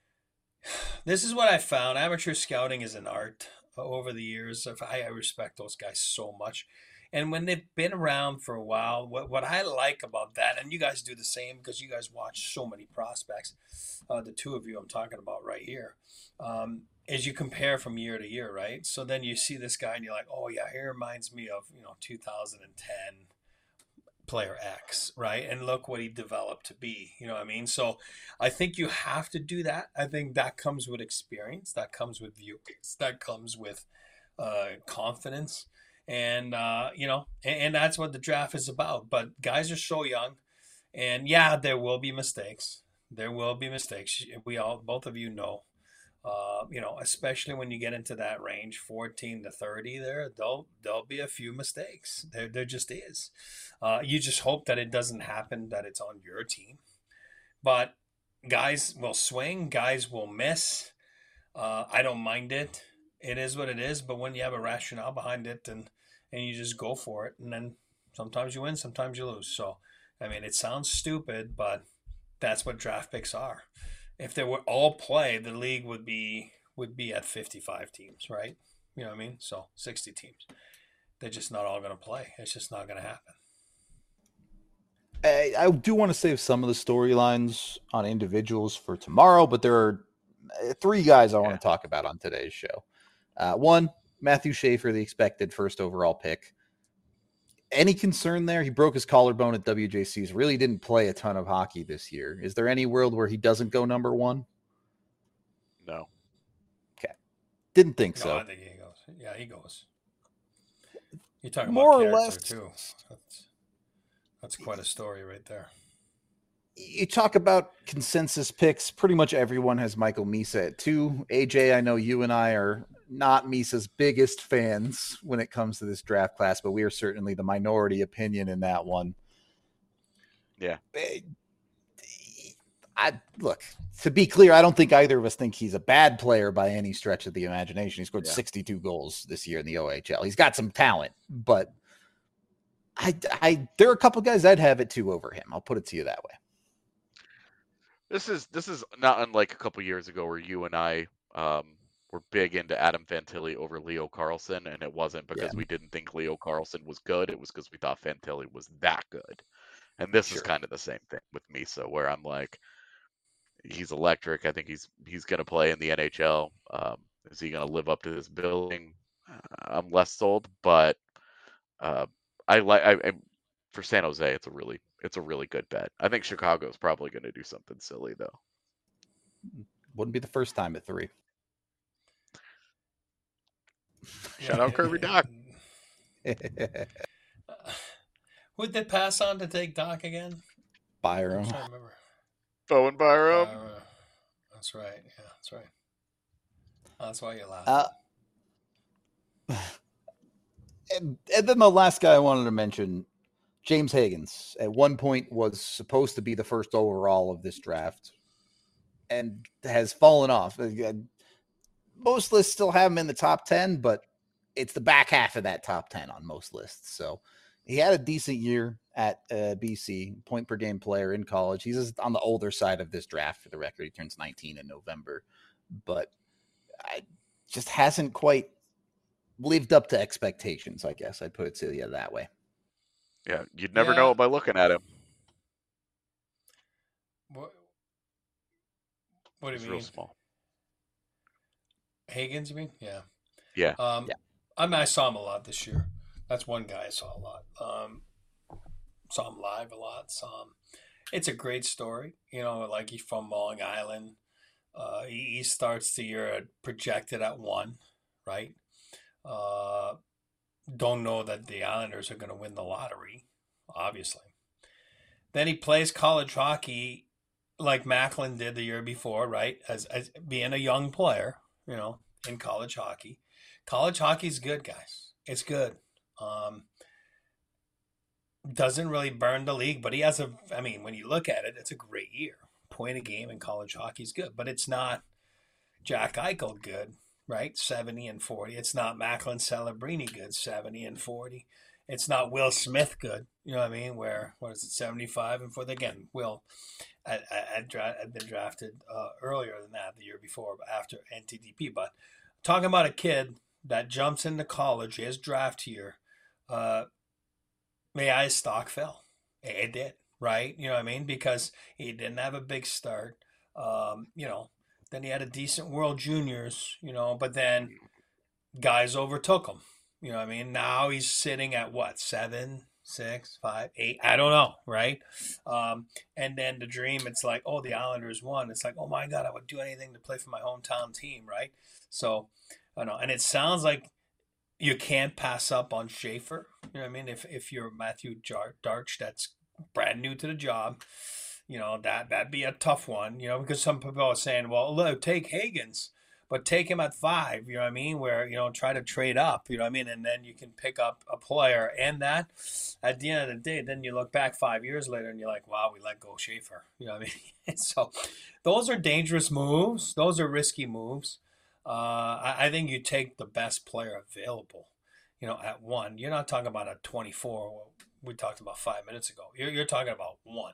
this is what I found. Amateur scouting is an art over the years. I, I respect those guys so much. And when they've been around for a while, what, what I like about that, and you guys do the same because you guys watch so many prospects, uh, the two of you I'm talking about right here, um, is you compare from year to year, right? So then you see this guy and you're like, oh yeah, he reminds me of, you know, two thousand ten player X, right? And look what he developed to be, you know what I mean? So I think you have to do that. I think that comes with experience, that comes with views, that comes with uh, confidence. And, uh, you know, and, and that's what the draft is about. But guys are so young. And yeah, there will be mistakes. There will be mistakes. We all, both of you know, uh, you know, especially when you get into that range, fourteen to thirty there, there'll, there'll be a few mistakes. There, there just is. Uh, you just hope that it doesn't happen, that it's on your team. But guys will swing. Guys will miss. Uh, I don't mind it. It is what it is. But when you have a rationale behind it and, and you just go for it, and then sometimes you win, sometimes you lose. So, I mean, it sounds stupid, but that's what draft picks are. If they were all play, the league would be would be at fifty-five teams, right? You know what I mean? So sixty teams. They're just not all going to play. It's just not going to happen. I, I do want to save some of the storylines on individuals for tomorrow, but there are three guys I want Yeah. to talk about on today's show. Uh, one, Matthew Schaefer, the expected first overall pick. Any concern there? He broke his collarbone at W J C's, really didn't play a ton of hockey this year. Is there any world where he doesn't go number one? No. Didn't think No, so. I think he goes. Yeah, he goes. You're talking More about or character, less. too. That's, that's quite a story right there. You talk about consensus picks. Pretty much everyone has Michael Misa at two. A J, I know you and I are not Misa's biggest fans when it comes to this draft class, but we are certainly the minority opinion in that one. Yeah. I look, to be clear, I don't think either of us think he's a bad player by any stretch of the imagination. He scored Yeah. sixty-two goals this year in the O H L. He's got some talent, but I, I, there are a couple guys I'd have it two over him. I'll put it to you that way. This is this is not unlike a couple years ago where you and I um, were big into Adam Fantilli over Leo Carlson, and it wasn't because Yeah. we didn't think Leo Carlson was good. It was because we thought Fantilli was that good. And this is Sure. kind of the same thing with Misa, where I'm like, he's electric. I think he's he's going to play in the N H L. Um, is he going to live up to this billing? Uh, I'm less sold, but uh, I like. I, I for San Jose, it's a really it's a really good bet. I think Chicago's probably going to do something silly though. Wouldn't be the first time at three. Shout out Kirby Doc. Who'd they pass on to take Doc again? I'm Byram. trying to remember. Bowen Byram. Uh, that's right. Yeah, that's right. That's why you laugh. Uh, and, and then the last guy I wanted to mention, James Higgins, at one point was supposed to be the first overall of this draft and has fallen off. Again, most lists still have him in the top ten, but it's the back half of that top ten on most lists. So he had a decent year at uh, B C, point per game player in college. He's just on the older side of this draft for the record. He turns nineteen in November, but I just hasn't quite lived up to expectations, I guess. I'd put it to you that way. Yeah, you'd never Yeah. know it by looking at him. What, what do He's you real mean? small. Higgins, you mean? Yeah. Yeah. Um, Yeah. I mean, I saw him a lot this year. That's one guy I saw a lot. Um, saw him live a lot. Saw him. It's a great story. You know, like he's from Long Island. Uh, he, he starts the year projected at one, right? Uh, don't know that the Islanders are going to win the lottery, obviously. Then he plays college hockey like Macklin did the year before, right? As, as being a young player, you know, in college hockey. College hockey is good, guys. It's good. Um, doesn't really burn the league, but he has a, I mean, when you look at it, it's a great year. Point a game in college hockey is good, but it's not Jack Eichel good, right? seventy and forty. It's not Macklin Celebrini good, seventy and forty. It's not Will Smith good, you know what I mean? Where, what is it, seventy-five and forty? Again, Will had, had, had been drafted uh, earlier than that, the year before, after N T D P. But talking about a kid that jumps into college, his draft year, uh, yeah, his stock fell. It did, right? You know what I mean? Because he didn't have a big start. Um, you know, then he had a decent World Juniors, you know, but then guys overtook him. You know what I mean? Now he's sitting at what, seven, six, five, eight? I don't know, right? Um, and then the dream, it's like, oh, the Islanders won. It's like, oh my God, I would do anything to play for my hometown team, right? So, I don't know. And it sounds like you can't pass up on Schaefer. You know what I mean? If if you're Matthew Darch, that's brand new to the job, you know, that, that'd be a tough one, you know, because some people are saying, well, look, take Higgins, but take him at five, you know what I mean? Where, you know, try to trade up, you know what I mean? And then you can pick up a player. And that, at the end of the day, then you look back five years later and you're like, wow, we let go Schaefer. You know what I mean? So those are dangerous moves. Those are risky moves. Uh, I, I think you take the best player available, you know, at one. You're not talking about a twenty-four. We talked about five minutes ago. You're, you're talking about one.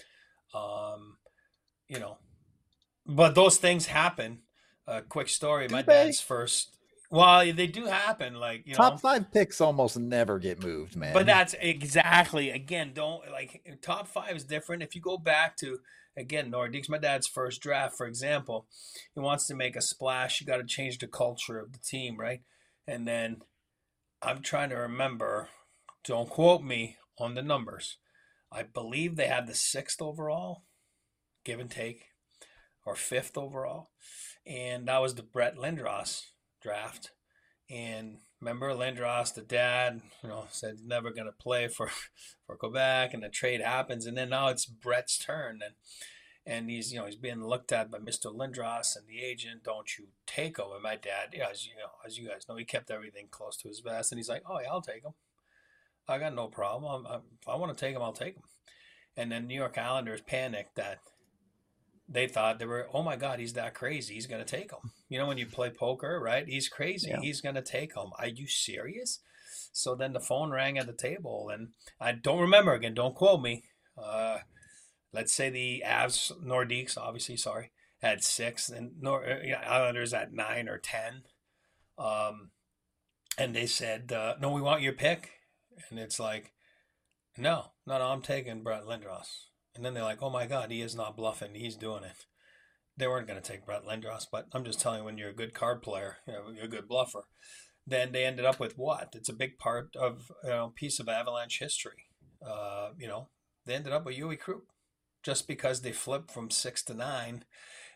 Um, you know, but those things happen. A uh, quick story. Do My they? dad's first. Well, they do happen. Like, you Top know, five picks almost never get moved, man. but that's exactly, again, don't like top five is different. If you go back to, again, Nordiques, my dad's first draft, for example, he wants to make a splash. You got to change the culture of the team, right? And then I'm trying to remember, don't quote me on the numbers. I believe they had the sixth overall, give and take, or fifth overall. And that was the Brett Lindros draft. And remember Lindros, the dad, you know, said he's never going to play for, for Quebec, and the trade happens. And then now it's Brett's turn. And and he's, you know, he's being looked at by Mister Lindros and the agent. Don't you take him? And my dad, you know, as you know, as you guys know, he kept everything close to his vest. And he's like, oh, yeah, I'll take him. I got no problem. I'm, I'm, if I want to take him, I'll take him. And then New York Islanders panicked that they thought they were, oh my God, he's that crazy. He's going to take him. You know, when you play poker, right? He's crazy. Yeah. He's going to take him. Are you serious? So then the phone rang at the table, and I don't remember again. Don't quote me. Uh, let's say the Avs, Nordiques, obviously, sorry, had six, and Nor- Islanders at nine or ten. Um, and they said, uh, no, we want your pick. And it's like, no, no, no, I'm taking Brett Lindros. And then they're like, oh my God, he is not bluffing. He's doing it. They weren't going to take Brett Lindros, but I'm just telling you, when you're a good card player, you know, you're a good bluffer, then they ended up with what? It's a big part of, you know, piece of Avalanche history. Uh, you know, they ended up with Yui Krug. Just because they flipped from six to nine,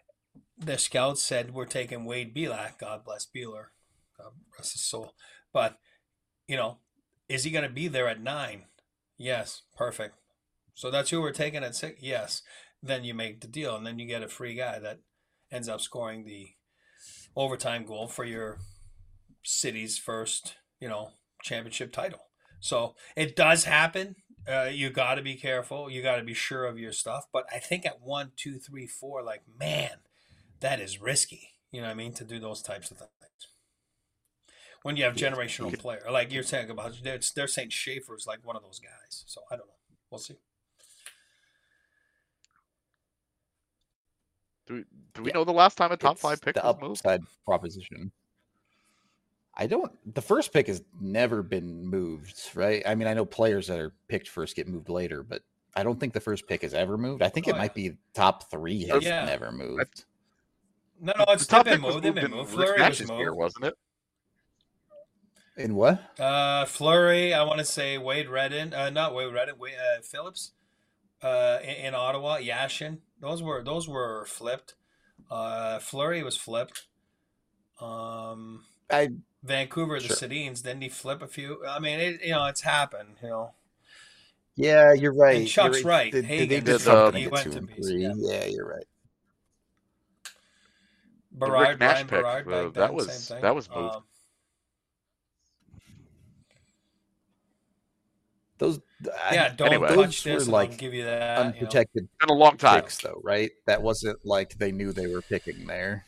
the scouts said, we're taking Wade Belak. God bless Beeler. God rest his soul. But, you know, is he going to be there at nine? Yes. Perfect. So that's who we're taking at six? Yes. Then you make the deal, and then you get a free guy that ends up scoring the overtime goal for your city's first, you know, championship title. So it does happen. Uh, you got to be careful. You got to be sure of your stuff. But I think at one, two, three, four, like, man, that is risky. You know what I mean? To do those types of things. When you have generational player, like you're saying about, they're, they're saying Schaefer's like one of those guys. So I don't know. We'll see. Do we, do we yeah. know the last time a top it's five pick the was moved? Upside proposition. I don't. The first pick has never been moved, right? I mean, I know players that are picked first get moved later, but I don't think the first pick has ever moved. I think oh, it yeah. might be top three has yeah. never moved. No, no, it's the been moved. They've been moved. Fleury was moved, year, wasn't it? In what? Uh, Fleury. I want to say Wade Redden. Uh, not Wade Redden. Wade, uh, Phillips. Uh, in, in Ottawa, Yashin. Those were those were flipped. Uh, Fleury was flipped. Um, I Vancouver, the sure. Sedins, didn't he flip a few? I mean, it, you know, it's happened. You know, Yeah, you're and right. You're Chuck's right. right. They, they they Hagen's did Did he, the something to he get went two to and B C. three. Yeah, Yeah, you're right. the Rick Berard, Nash Ryan pick? Berard Uh, back that then, same was thing. that was moved. Um, Those I, yeah, don't Anyway. touch those were this, and I'll like give you that. You know, unprotected Been a long time. picks, though, right? That wasn't like they knew they were picking there.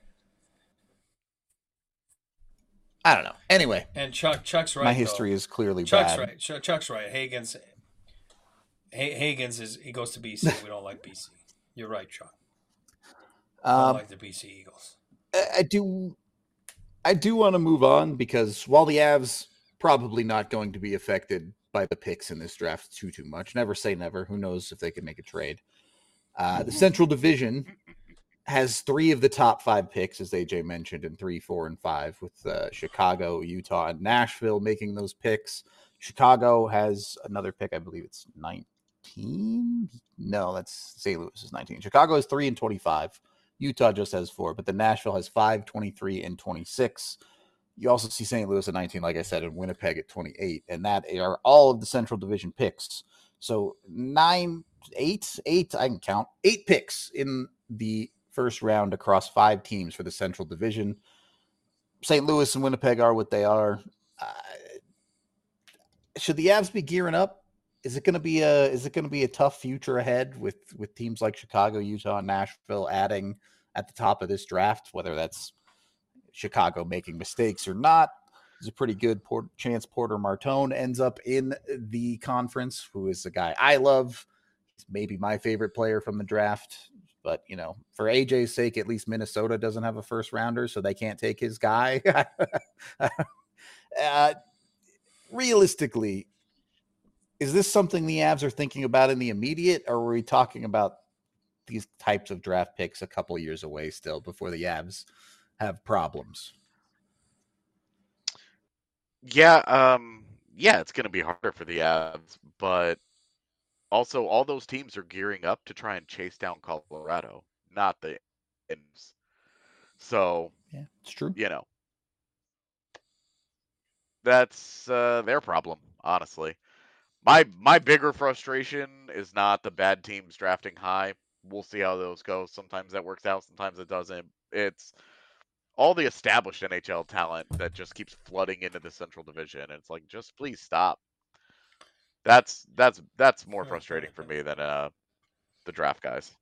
I don't know. Anyway, and Chuck Chuck's right. my history though. is clearly Chuck's bad. right. Ch- Chuck's right. Hagen's Ha- Hagen's is he goes to B C. We don't like B C. You're right, Chuck. Don't Um, like the B C Eagles. I, I do, I do want to move on because while the Avs probably not going to be affected by the picks in this draft too too much. Never say never. Who knows if they can make a trade? Uh, the Central Division has three of the top five picks, as A J mentioned, in three, four, and five, with uh, Chicago, Utah, and Nashville making those picks. Chicago has another pick. I believe it's nineteen. No, that's Saint Louis is nineteen. Chicago has three and twenty-five. Utah just has four, but the Nashville has five, twenty-three, and twenty-six. You also see Saint Louis at nineteen, like I said, and Winnipeg at twenty-eight, and that are all of the Central Division picks. So nine, eight, eight, I can count, eight picks in the first round across five teams for the Central Division. Saint Louis and Winnipeg are what they are. Uh, should the Avs be gearing up? Is it going to be a is it going to be a tough future ahead with with teams like Chicago, Utah, and Nashville adding at the top of this draft? Whether that's Chicago making mistakes or not, there's a pretty good port- chance Porter Martone ends up in the conference. Who is a guy I love? He's maybe my favorite player from the draft. But, you know, for A J's sake, at least Minnesota doesn't have a first rounder, so they can't take his guy. uh, realistically, is this something the Avs are thinking about in the immediate, or are we talking about these types of draft picks a couple years away still before the Avs have problems? Yeah, um, yeah, it's going to be harder for the Avs, but also all those teams are gearing up to try and chase down Colorado, not the Indians. So, yeah, it's true. You know, that's uh, their problem, honestly. My my bigger frustration is not the bad teams drafting high. We'll see how those go. Sometimes that works out, sometimes it doesn't. It's all the established N H L talent that just keeps flooding into the Central Division. And it's like, just please stop. That's that's that's more frustrating for me than uh the draft guys.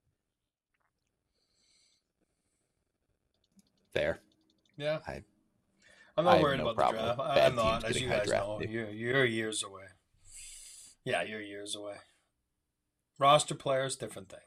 Fair. Yeah. I, I'm not I worried no about the draft. I'm not, as you guys know. You're, you're years away. Yeah, you're years away. Roster players, different thing.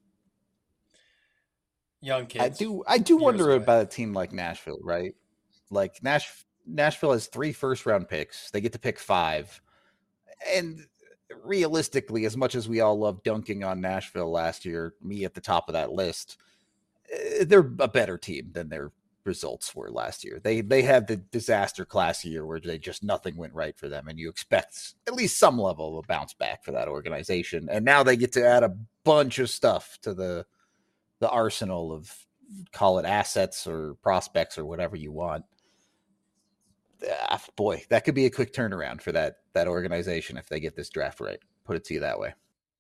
Young kids. I do I do wonder away. about a team like Nashville, right? Like Nash Nashville has three first round picks. They get to pick five. And realistically, as much as we all love dunking on Nashville last year, me at the top of that list, they're a better team than their results were last year. They they had the disaster class year where they just nothing went right for them, and you expect at least some level of a bounce back for that organization. And now they get to add a bunch of stuff to the the arsenal of, call it assets or prospects or whatever you want. Ah, boy, that could be a quick turnaround for that that organization if they get this draft right. Put it to you that way.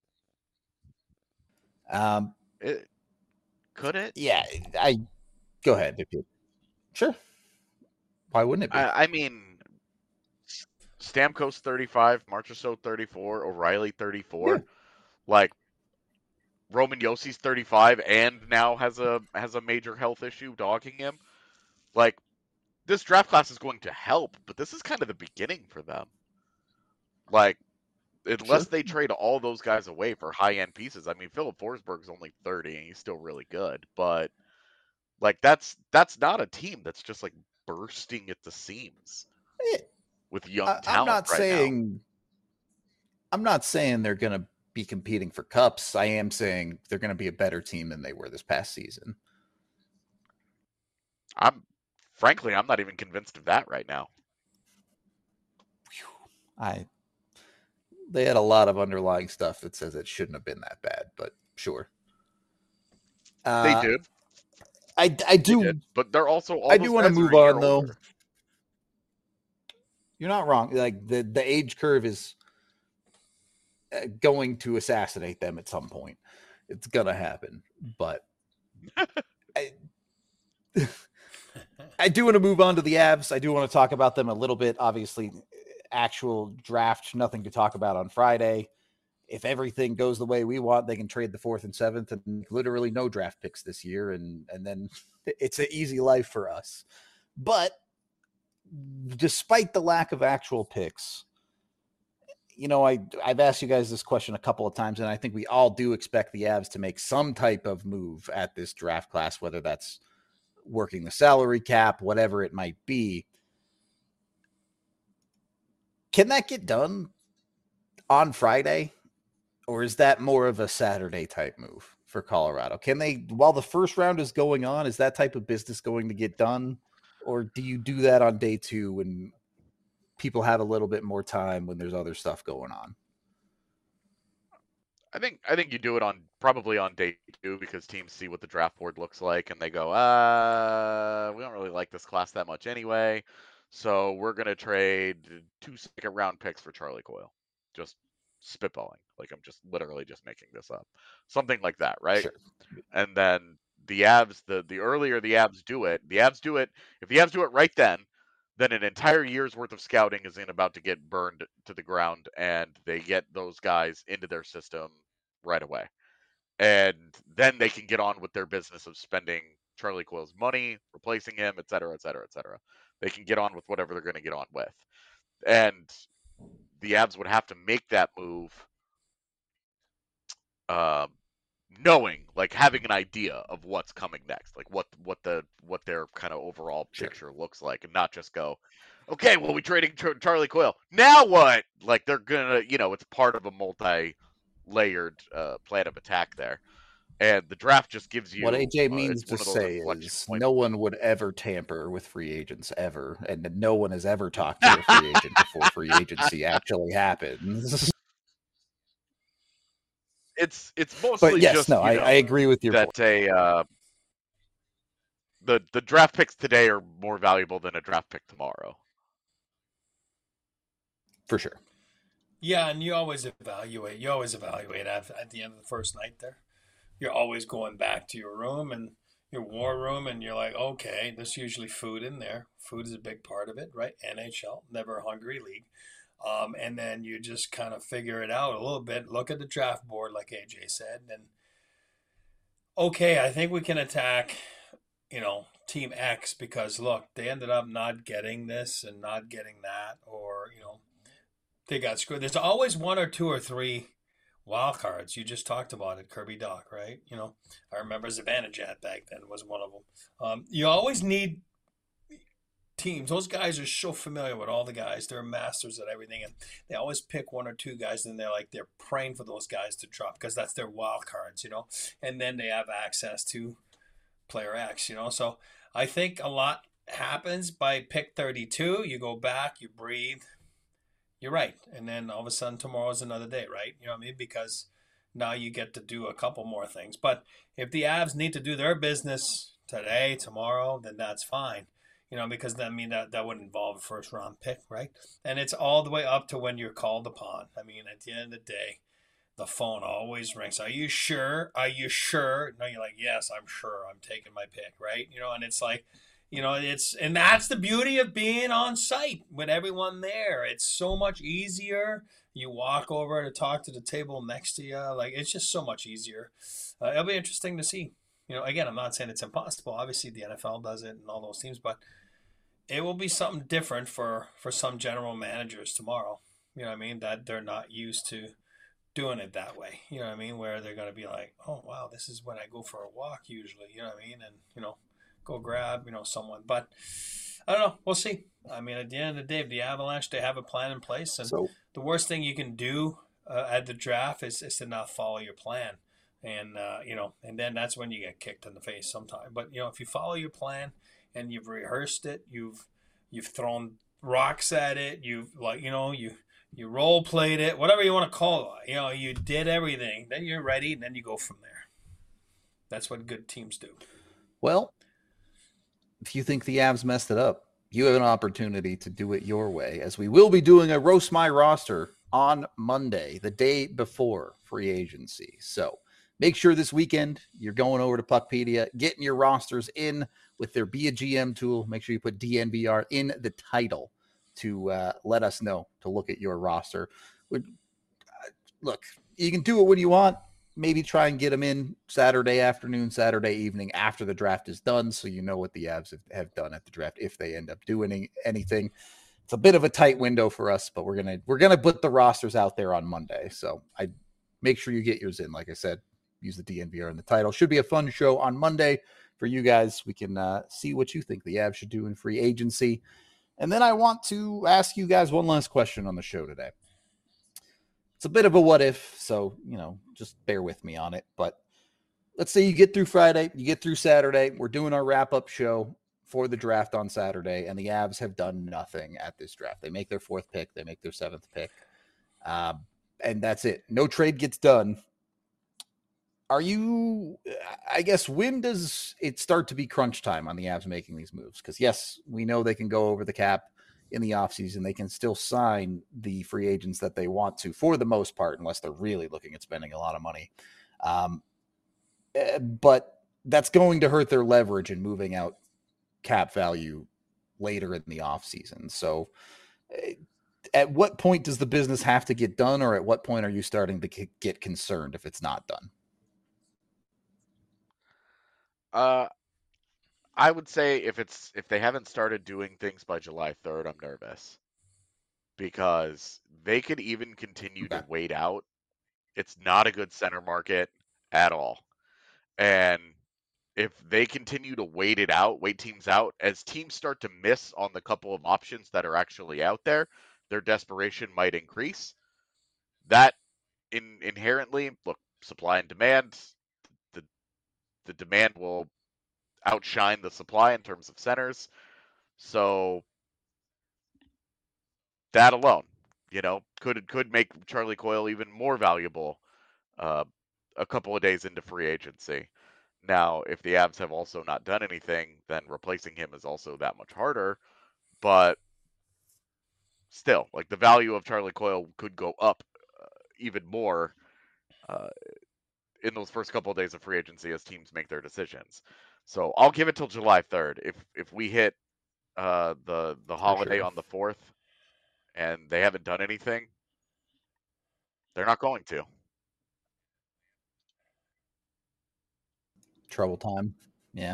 Um, it, could it? Yeah, I go ahead if you sure. Why wouldn't it be? I, I mean, Stamkos thirty-five, Marchessault thirty-four, O'Reilly thirty-four. Yeah. Like Roman Jossi's thirty-five and now has a has a major health issue dogging him. Like, this draft class is going to help, but this is kind of the beginning for them. Like, unless sure. they trade all those guys away for high-end pieces. I mean, Philip Forsberg's only thirty, and he's still really good. But, like, that's that's not a team that's just, like, bursting at the seams it, with young I, talent I'm not right saying, now. I'm not saying they're going to be competing for cups. I am saying they're going to be a better team than they were this past season. I'm frankly, I'm not even convinced of that right now. I they had a lot of underlying stuff that says it shouldn't have been that bad, but sure. Uh, they did. I, I They do did, but they're also all I those do want to guys are move a year on though. older. You're not wrong. Like the the age curve is uh, going to assassinate them at some point. It's gonna happen, but I, I do want to move on to the Avs. I do want to talk about them a little bit. Obviously, actual draft, nothing to talk about on Friday. If everything goes the way we want, they can trade the fourth and seventh and literally no draft picks this year, and and then it's an easy life for us. But despite the lack of actual picks, you know, I I've asked you guys this question a couple of times, and I think we all do expect the Avs to make some type of move at this draft class, whether that's working the salary cap, whatever it might be. Can that get done on Friday? Or is that more of a Saturday type move for Colorado? Can they, while the first round is going on, is that type of business going to get done? Or do you do that on day two when people have a little bit more time when there's other stuff going on? I think I think you do it on probably on day two because teams see what the draft board looks like and they go, uh, we don't really like this class that much anyway, so we're gonna trade two second round picks for Charlie Coyle. Just spitballing, like I'm just literally just making this up, something like that, right? Sure. And then the Avs, the the earlier the Avs do it, the Avs do it. If the Avs do it right then, then an entire year's worth of scouting is in about to get burned to the ground, and they get those guys into their system right away. And then they can get on with their business of spending Charlie Coyle's money, replacing him, et cetera, et cetera, et cetera. They can get on with whatever they're going to get on with. And the Avs would have to make that move um, knowing, like having an idea of what's coming next, like what what the what their kind of overall Sure. picture looks like, and not just go, okay, well, we trading Char- Charlie Coyle. Now what? Like they're gonna, you know, it's part of a multi-layered uh, plan of attack there, and the draft just gives you What A J uh, means it's to one of those say inflection is points. no one would ever tamper with free agents ever, and no one has ever talked to a free agent before free agency actually happens. It's it's mostly But yes, just no, you I, know, I agree with your that point. a uh, the the draft picks today are more valuable than a draft pick tomorrow. For sure. Yeah, and you always evaluate. You always evaluate at, at the end of the first night there. You're always going back to your room and your war room, and you're like, okay, there's usually food in there. Food is a big part of it, right? N H L, never a hungry league. Um, and then you just kind of figure it out a little bit. Look at the draft board, like A J said, and okay, I think we can attack, you know, Team X because look, they ended up not getting this and not getting that, or you know, they got screwed. There's always one or two or three wild cards. You just talked about it, Kirby Doc, right? You know, I remember Zibanejad back then was one of them. Um, you always need teams. Those guys are so familiar with all the guys. They're masters at everything, and they always pick one or two guys, and they're like they're praying for those guys to drop because that's their wild cards, you know. And then they have access to player X, you know. So I think a lot happens by pick thirty-two. You go back, you breathe. You're right, and then all of a sudden tomorrow's another day, right? You know what I mean? Because now you get to do a couple more things. But if the Avs need to do their business today, tomorrow, then that's fine. You know, because that I mean that that would involve a first round pick, right? And it's all the way up to when you're called upon. I mean, at the end of the day, the phone always rings. Are you sure? Are you sure? No, you're like, yes, I'm sure. I'm taking my pick, right? You know, and it's like, you know, it's and that's the beauty of being on site with everyone there. It's so much easier. You walk over to talk to the table next to you. Like it's just so much easier. Uh, it'll be interesting to see. You know, again, I'm not saying it's impossible. Obviously, the N F L does it and all those teams, but it will be something different for for some general managers tomorrow. You know what I mean? That they're not used to doing it that way. You know what I mean? Where they're going to be like, oh, wow, this is when I go for a walk usually. You know what I mean? And, you know, go grab, you know, someone. But I don't know. We'll see. I mean, at the end of the day, the Avalanche, they have a plan in place. And So the worst thing you can do uh, at the draft is, is to not follow your plan. And, uh, you know, and then that's when you get kicked in the face sometime. But, you know, if you follow your plan and you've rehearsed it, you've you've thrown rocks at it, you've, like, you know, you you role played it, whatever you want to call it. You know, you did everything. Then you're ready, and then you go from there. That's what good teams do. Well, if you think the Avs messed it up, you have an opportunity to do it your way, as we will be doing a Roast My Roster on Monday, the day before free agency. So make sure this weekend you're going over to Puckpedia, getting your rosters in with their Be a G M tool. Make sure you put D N V R in the title to uh, let us know to look at your roster. Look, you can do it when you want. Maybe try and get them in Saturday afternoon, Saturday evening after the draft is done, so you know what the Avs have, have done at the draft if they end up doing any, anything. It's a bit of a tight window for us, but we're gonna we're gonna put the rosters out there on Monday. So I make sure you get yours in. Like I said, use the D N V R in the title. Should be a fun show on Monday for you guys. We can uh, see what you think the Avs should do in free agency. And then I want to ask you guys one last question on the show today. It's a bit of a what if, so, you know, just bear with me on it. But let's say you get through Friday, you get through Saturday. We're doing our wrap-up show for the draft on Saturday, and the Avs have done nothing at this draft. They make their fourth pick. They make their seventh pick. Um, and that's it. No trade gets done. Are you, I guess, when does it start to be crunch time on the Avs making these moves? Because, yes, we know they can go over the cap in the offseason. They can still sign the free agents that they want to for the most part, unless they're really looking at spending a lot of money. Um, but that's going to hurt their leverage in moving out cap value later in the offseason. So at what point does the business have to get done, or at what point are you starting to get concerned if it's not done? Uh, I would say if it's if they haven't started doing things by July third, I'm nervous, because they could even continue Okay. to wait out. It's not a good center market at all. And if they continue to wait it out, wait teams out, as teams start to miss on the couple of options that are actually out there, their desperation might increase. That in inherently, look, supply and demand, the the demand will outshine the supply in terms of centers. So that alone, you know, could could make Charlie Coyle even more valuable uh, a couple of days into free agency. Now, if the Avs have also not done anything, then replacing him is also that much harder. But still, like, the value of Charlie Coyle could go up uh, even more uh, in those first couple of days of free agency as teams make their decisions. So I'll give it till July third. If if we hit uh, the the holiday sure. on the fourth and they haven't done anything, they're not going to. Trouble time. Yeah.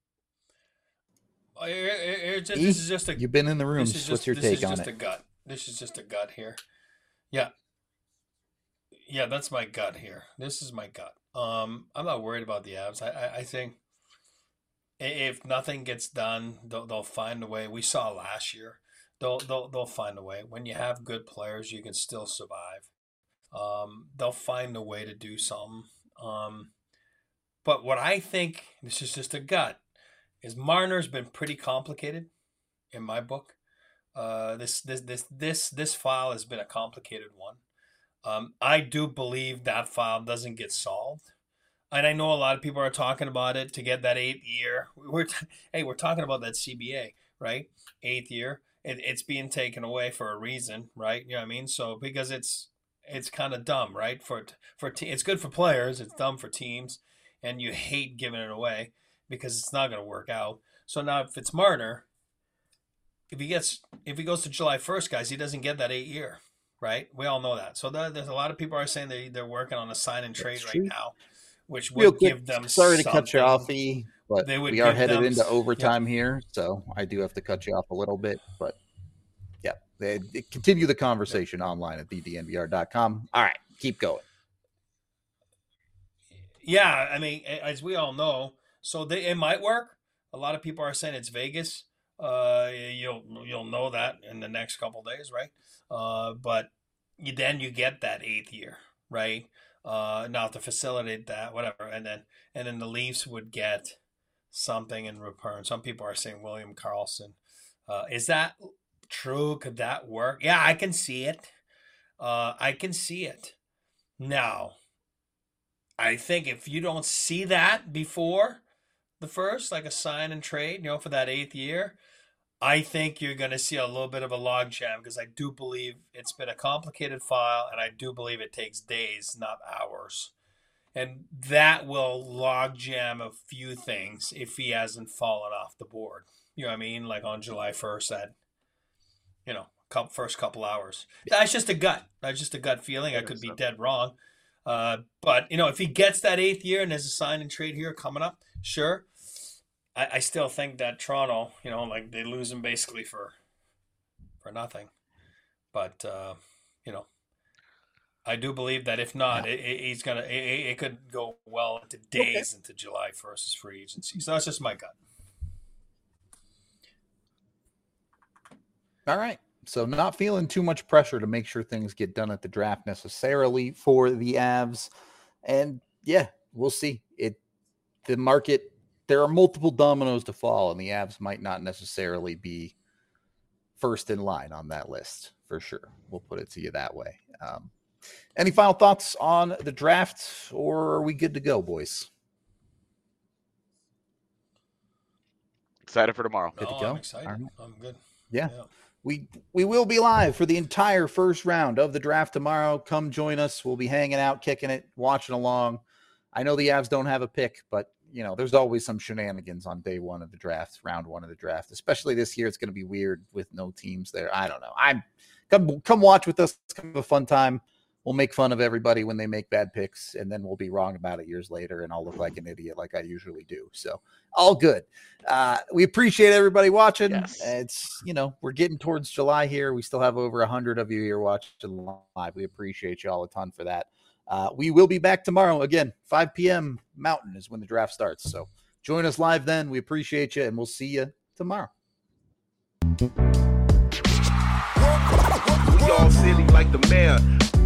It, it, it just, E, this is just a. You've been in the room. This is What's just your this take is on just it? a gut. This is just a gut here. Yeah. Yeah, that's my gut here. This is my gut. Um, I'm not worried about the Avs. I, I, I think if nothing gets done, they'll, they'll find a way. We saw last year. They'll, they'll, they'll find a way. When you have good players, you can still survive. Um, they'll find a way to do something. Um, but what I think, this is just a gut, is Marner's been pretty complicated in my book. Uh, this this this this this file has been a complicated one. Um, I do believe that file doesn't get solved, and I know a lot of people are talking about it to get that eighth year. We're t- hey, we're talking about that C B A, right? Eighth year. It, it's being taken away for a reason, right? You know what I mean? So because it's it's kind of dumb, right? For for te- it's good for players, it's dumb for teams, and you hate giving it away because it's not going to work out. So now if it's Marner, if he gets if he goes to July first, guys, he doesn't get that eight year, right? We all know that. So the, there's a lot of people are saying they they're working on a sign and trade That's right true. now, which Real would quick, give them sorry to something. cut you off, E, but They would we are give headed them into s- overtime here, so I do have to cut you off a little bit. But yeah, they, they continue the conversation online at the d n v r dot com. All right, keep going. Yeah, I mean, a- as we all know, so they, it might work. A lot of people are saying it's Vegas. Uh, you'll you'll know that in the next couple days, right? Uh, but you, then you get that eighth year, right? Uh, now to facilitate that, whatever, and then and then the Leafs would get something in return. Some people are saying William Karlsson. Uh, is that true? Could that work? Yeah, I can see it. Uh, I can see it. Now, I think if you don't see that before, the first, like a sign and trade, you know, for that eighth year, I think you're going to see a little bit of a logjam because I do believe it's been a complicated file, and I do believe it takes days, not hours. And that will logjam a few things if he hasn't fallen off the board. You know what I mean? Like on July first at, you know, first couple hours. That's just a gut. That's just a gut feeling. I could be dead wrong. Uh, but, you know, if he gets that eighth year and there's a sign and trade here coming up, sure. I, I still think that Toronto, you know, like they lose him basically for for nothing. But, uh, you know, I do believe that if not, yeah. it, it, he's going to, it, it could go well into days okay. into July first as free agency. So that's just my gut. All right. So not feeling too much pressure to make sure things get done at the draft necessarily for the Avs. And yeah, we'll see. It the market, there are multiple dominoes to fall, and the Avs might not necessarily be first in line on that list for sure. We'll put it to you that way. Um, any final thoughts on the draft, or are we good to go, boys? Excited for tomorrow. No, good to go. I'm excited. Right. I'm good. Yeah. yeah. We we will be live for the entire first round of the draft tomorrow. Come join us. We'll be hanging out, kicking it, watching along. I know the Avs don't have a pick, but, you know, there's always some shenanigans on day one of the draft, round one of the draft. Especially this year, it's going to be weird with no teams there. I don't know. I'm come come watch with us. It's kind of a fun time. We'll make fun of everybody when they make bad picks, and then we'll be wrong about it years later, and I'll look like an idiot like I usually do. So all good. Uh, we appreciate everybody watching. Yes. It's, you know, we're getting towards July here. We still have over one hundred of you here watching live. We appreciate you all a ton for that. Uh, we will be back tomorrow. Again, five p.m. Mountain is when the draft starts. So join us live then. We appreciate you, and we'll see you tomorrow. We all silly like the mayor.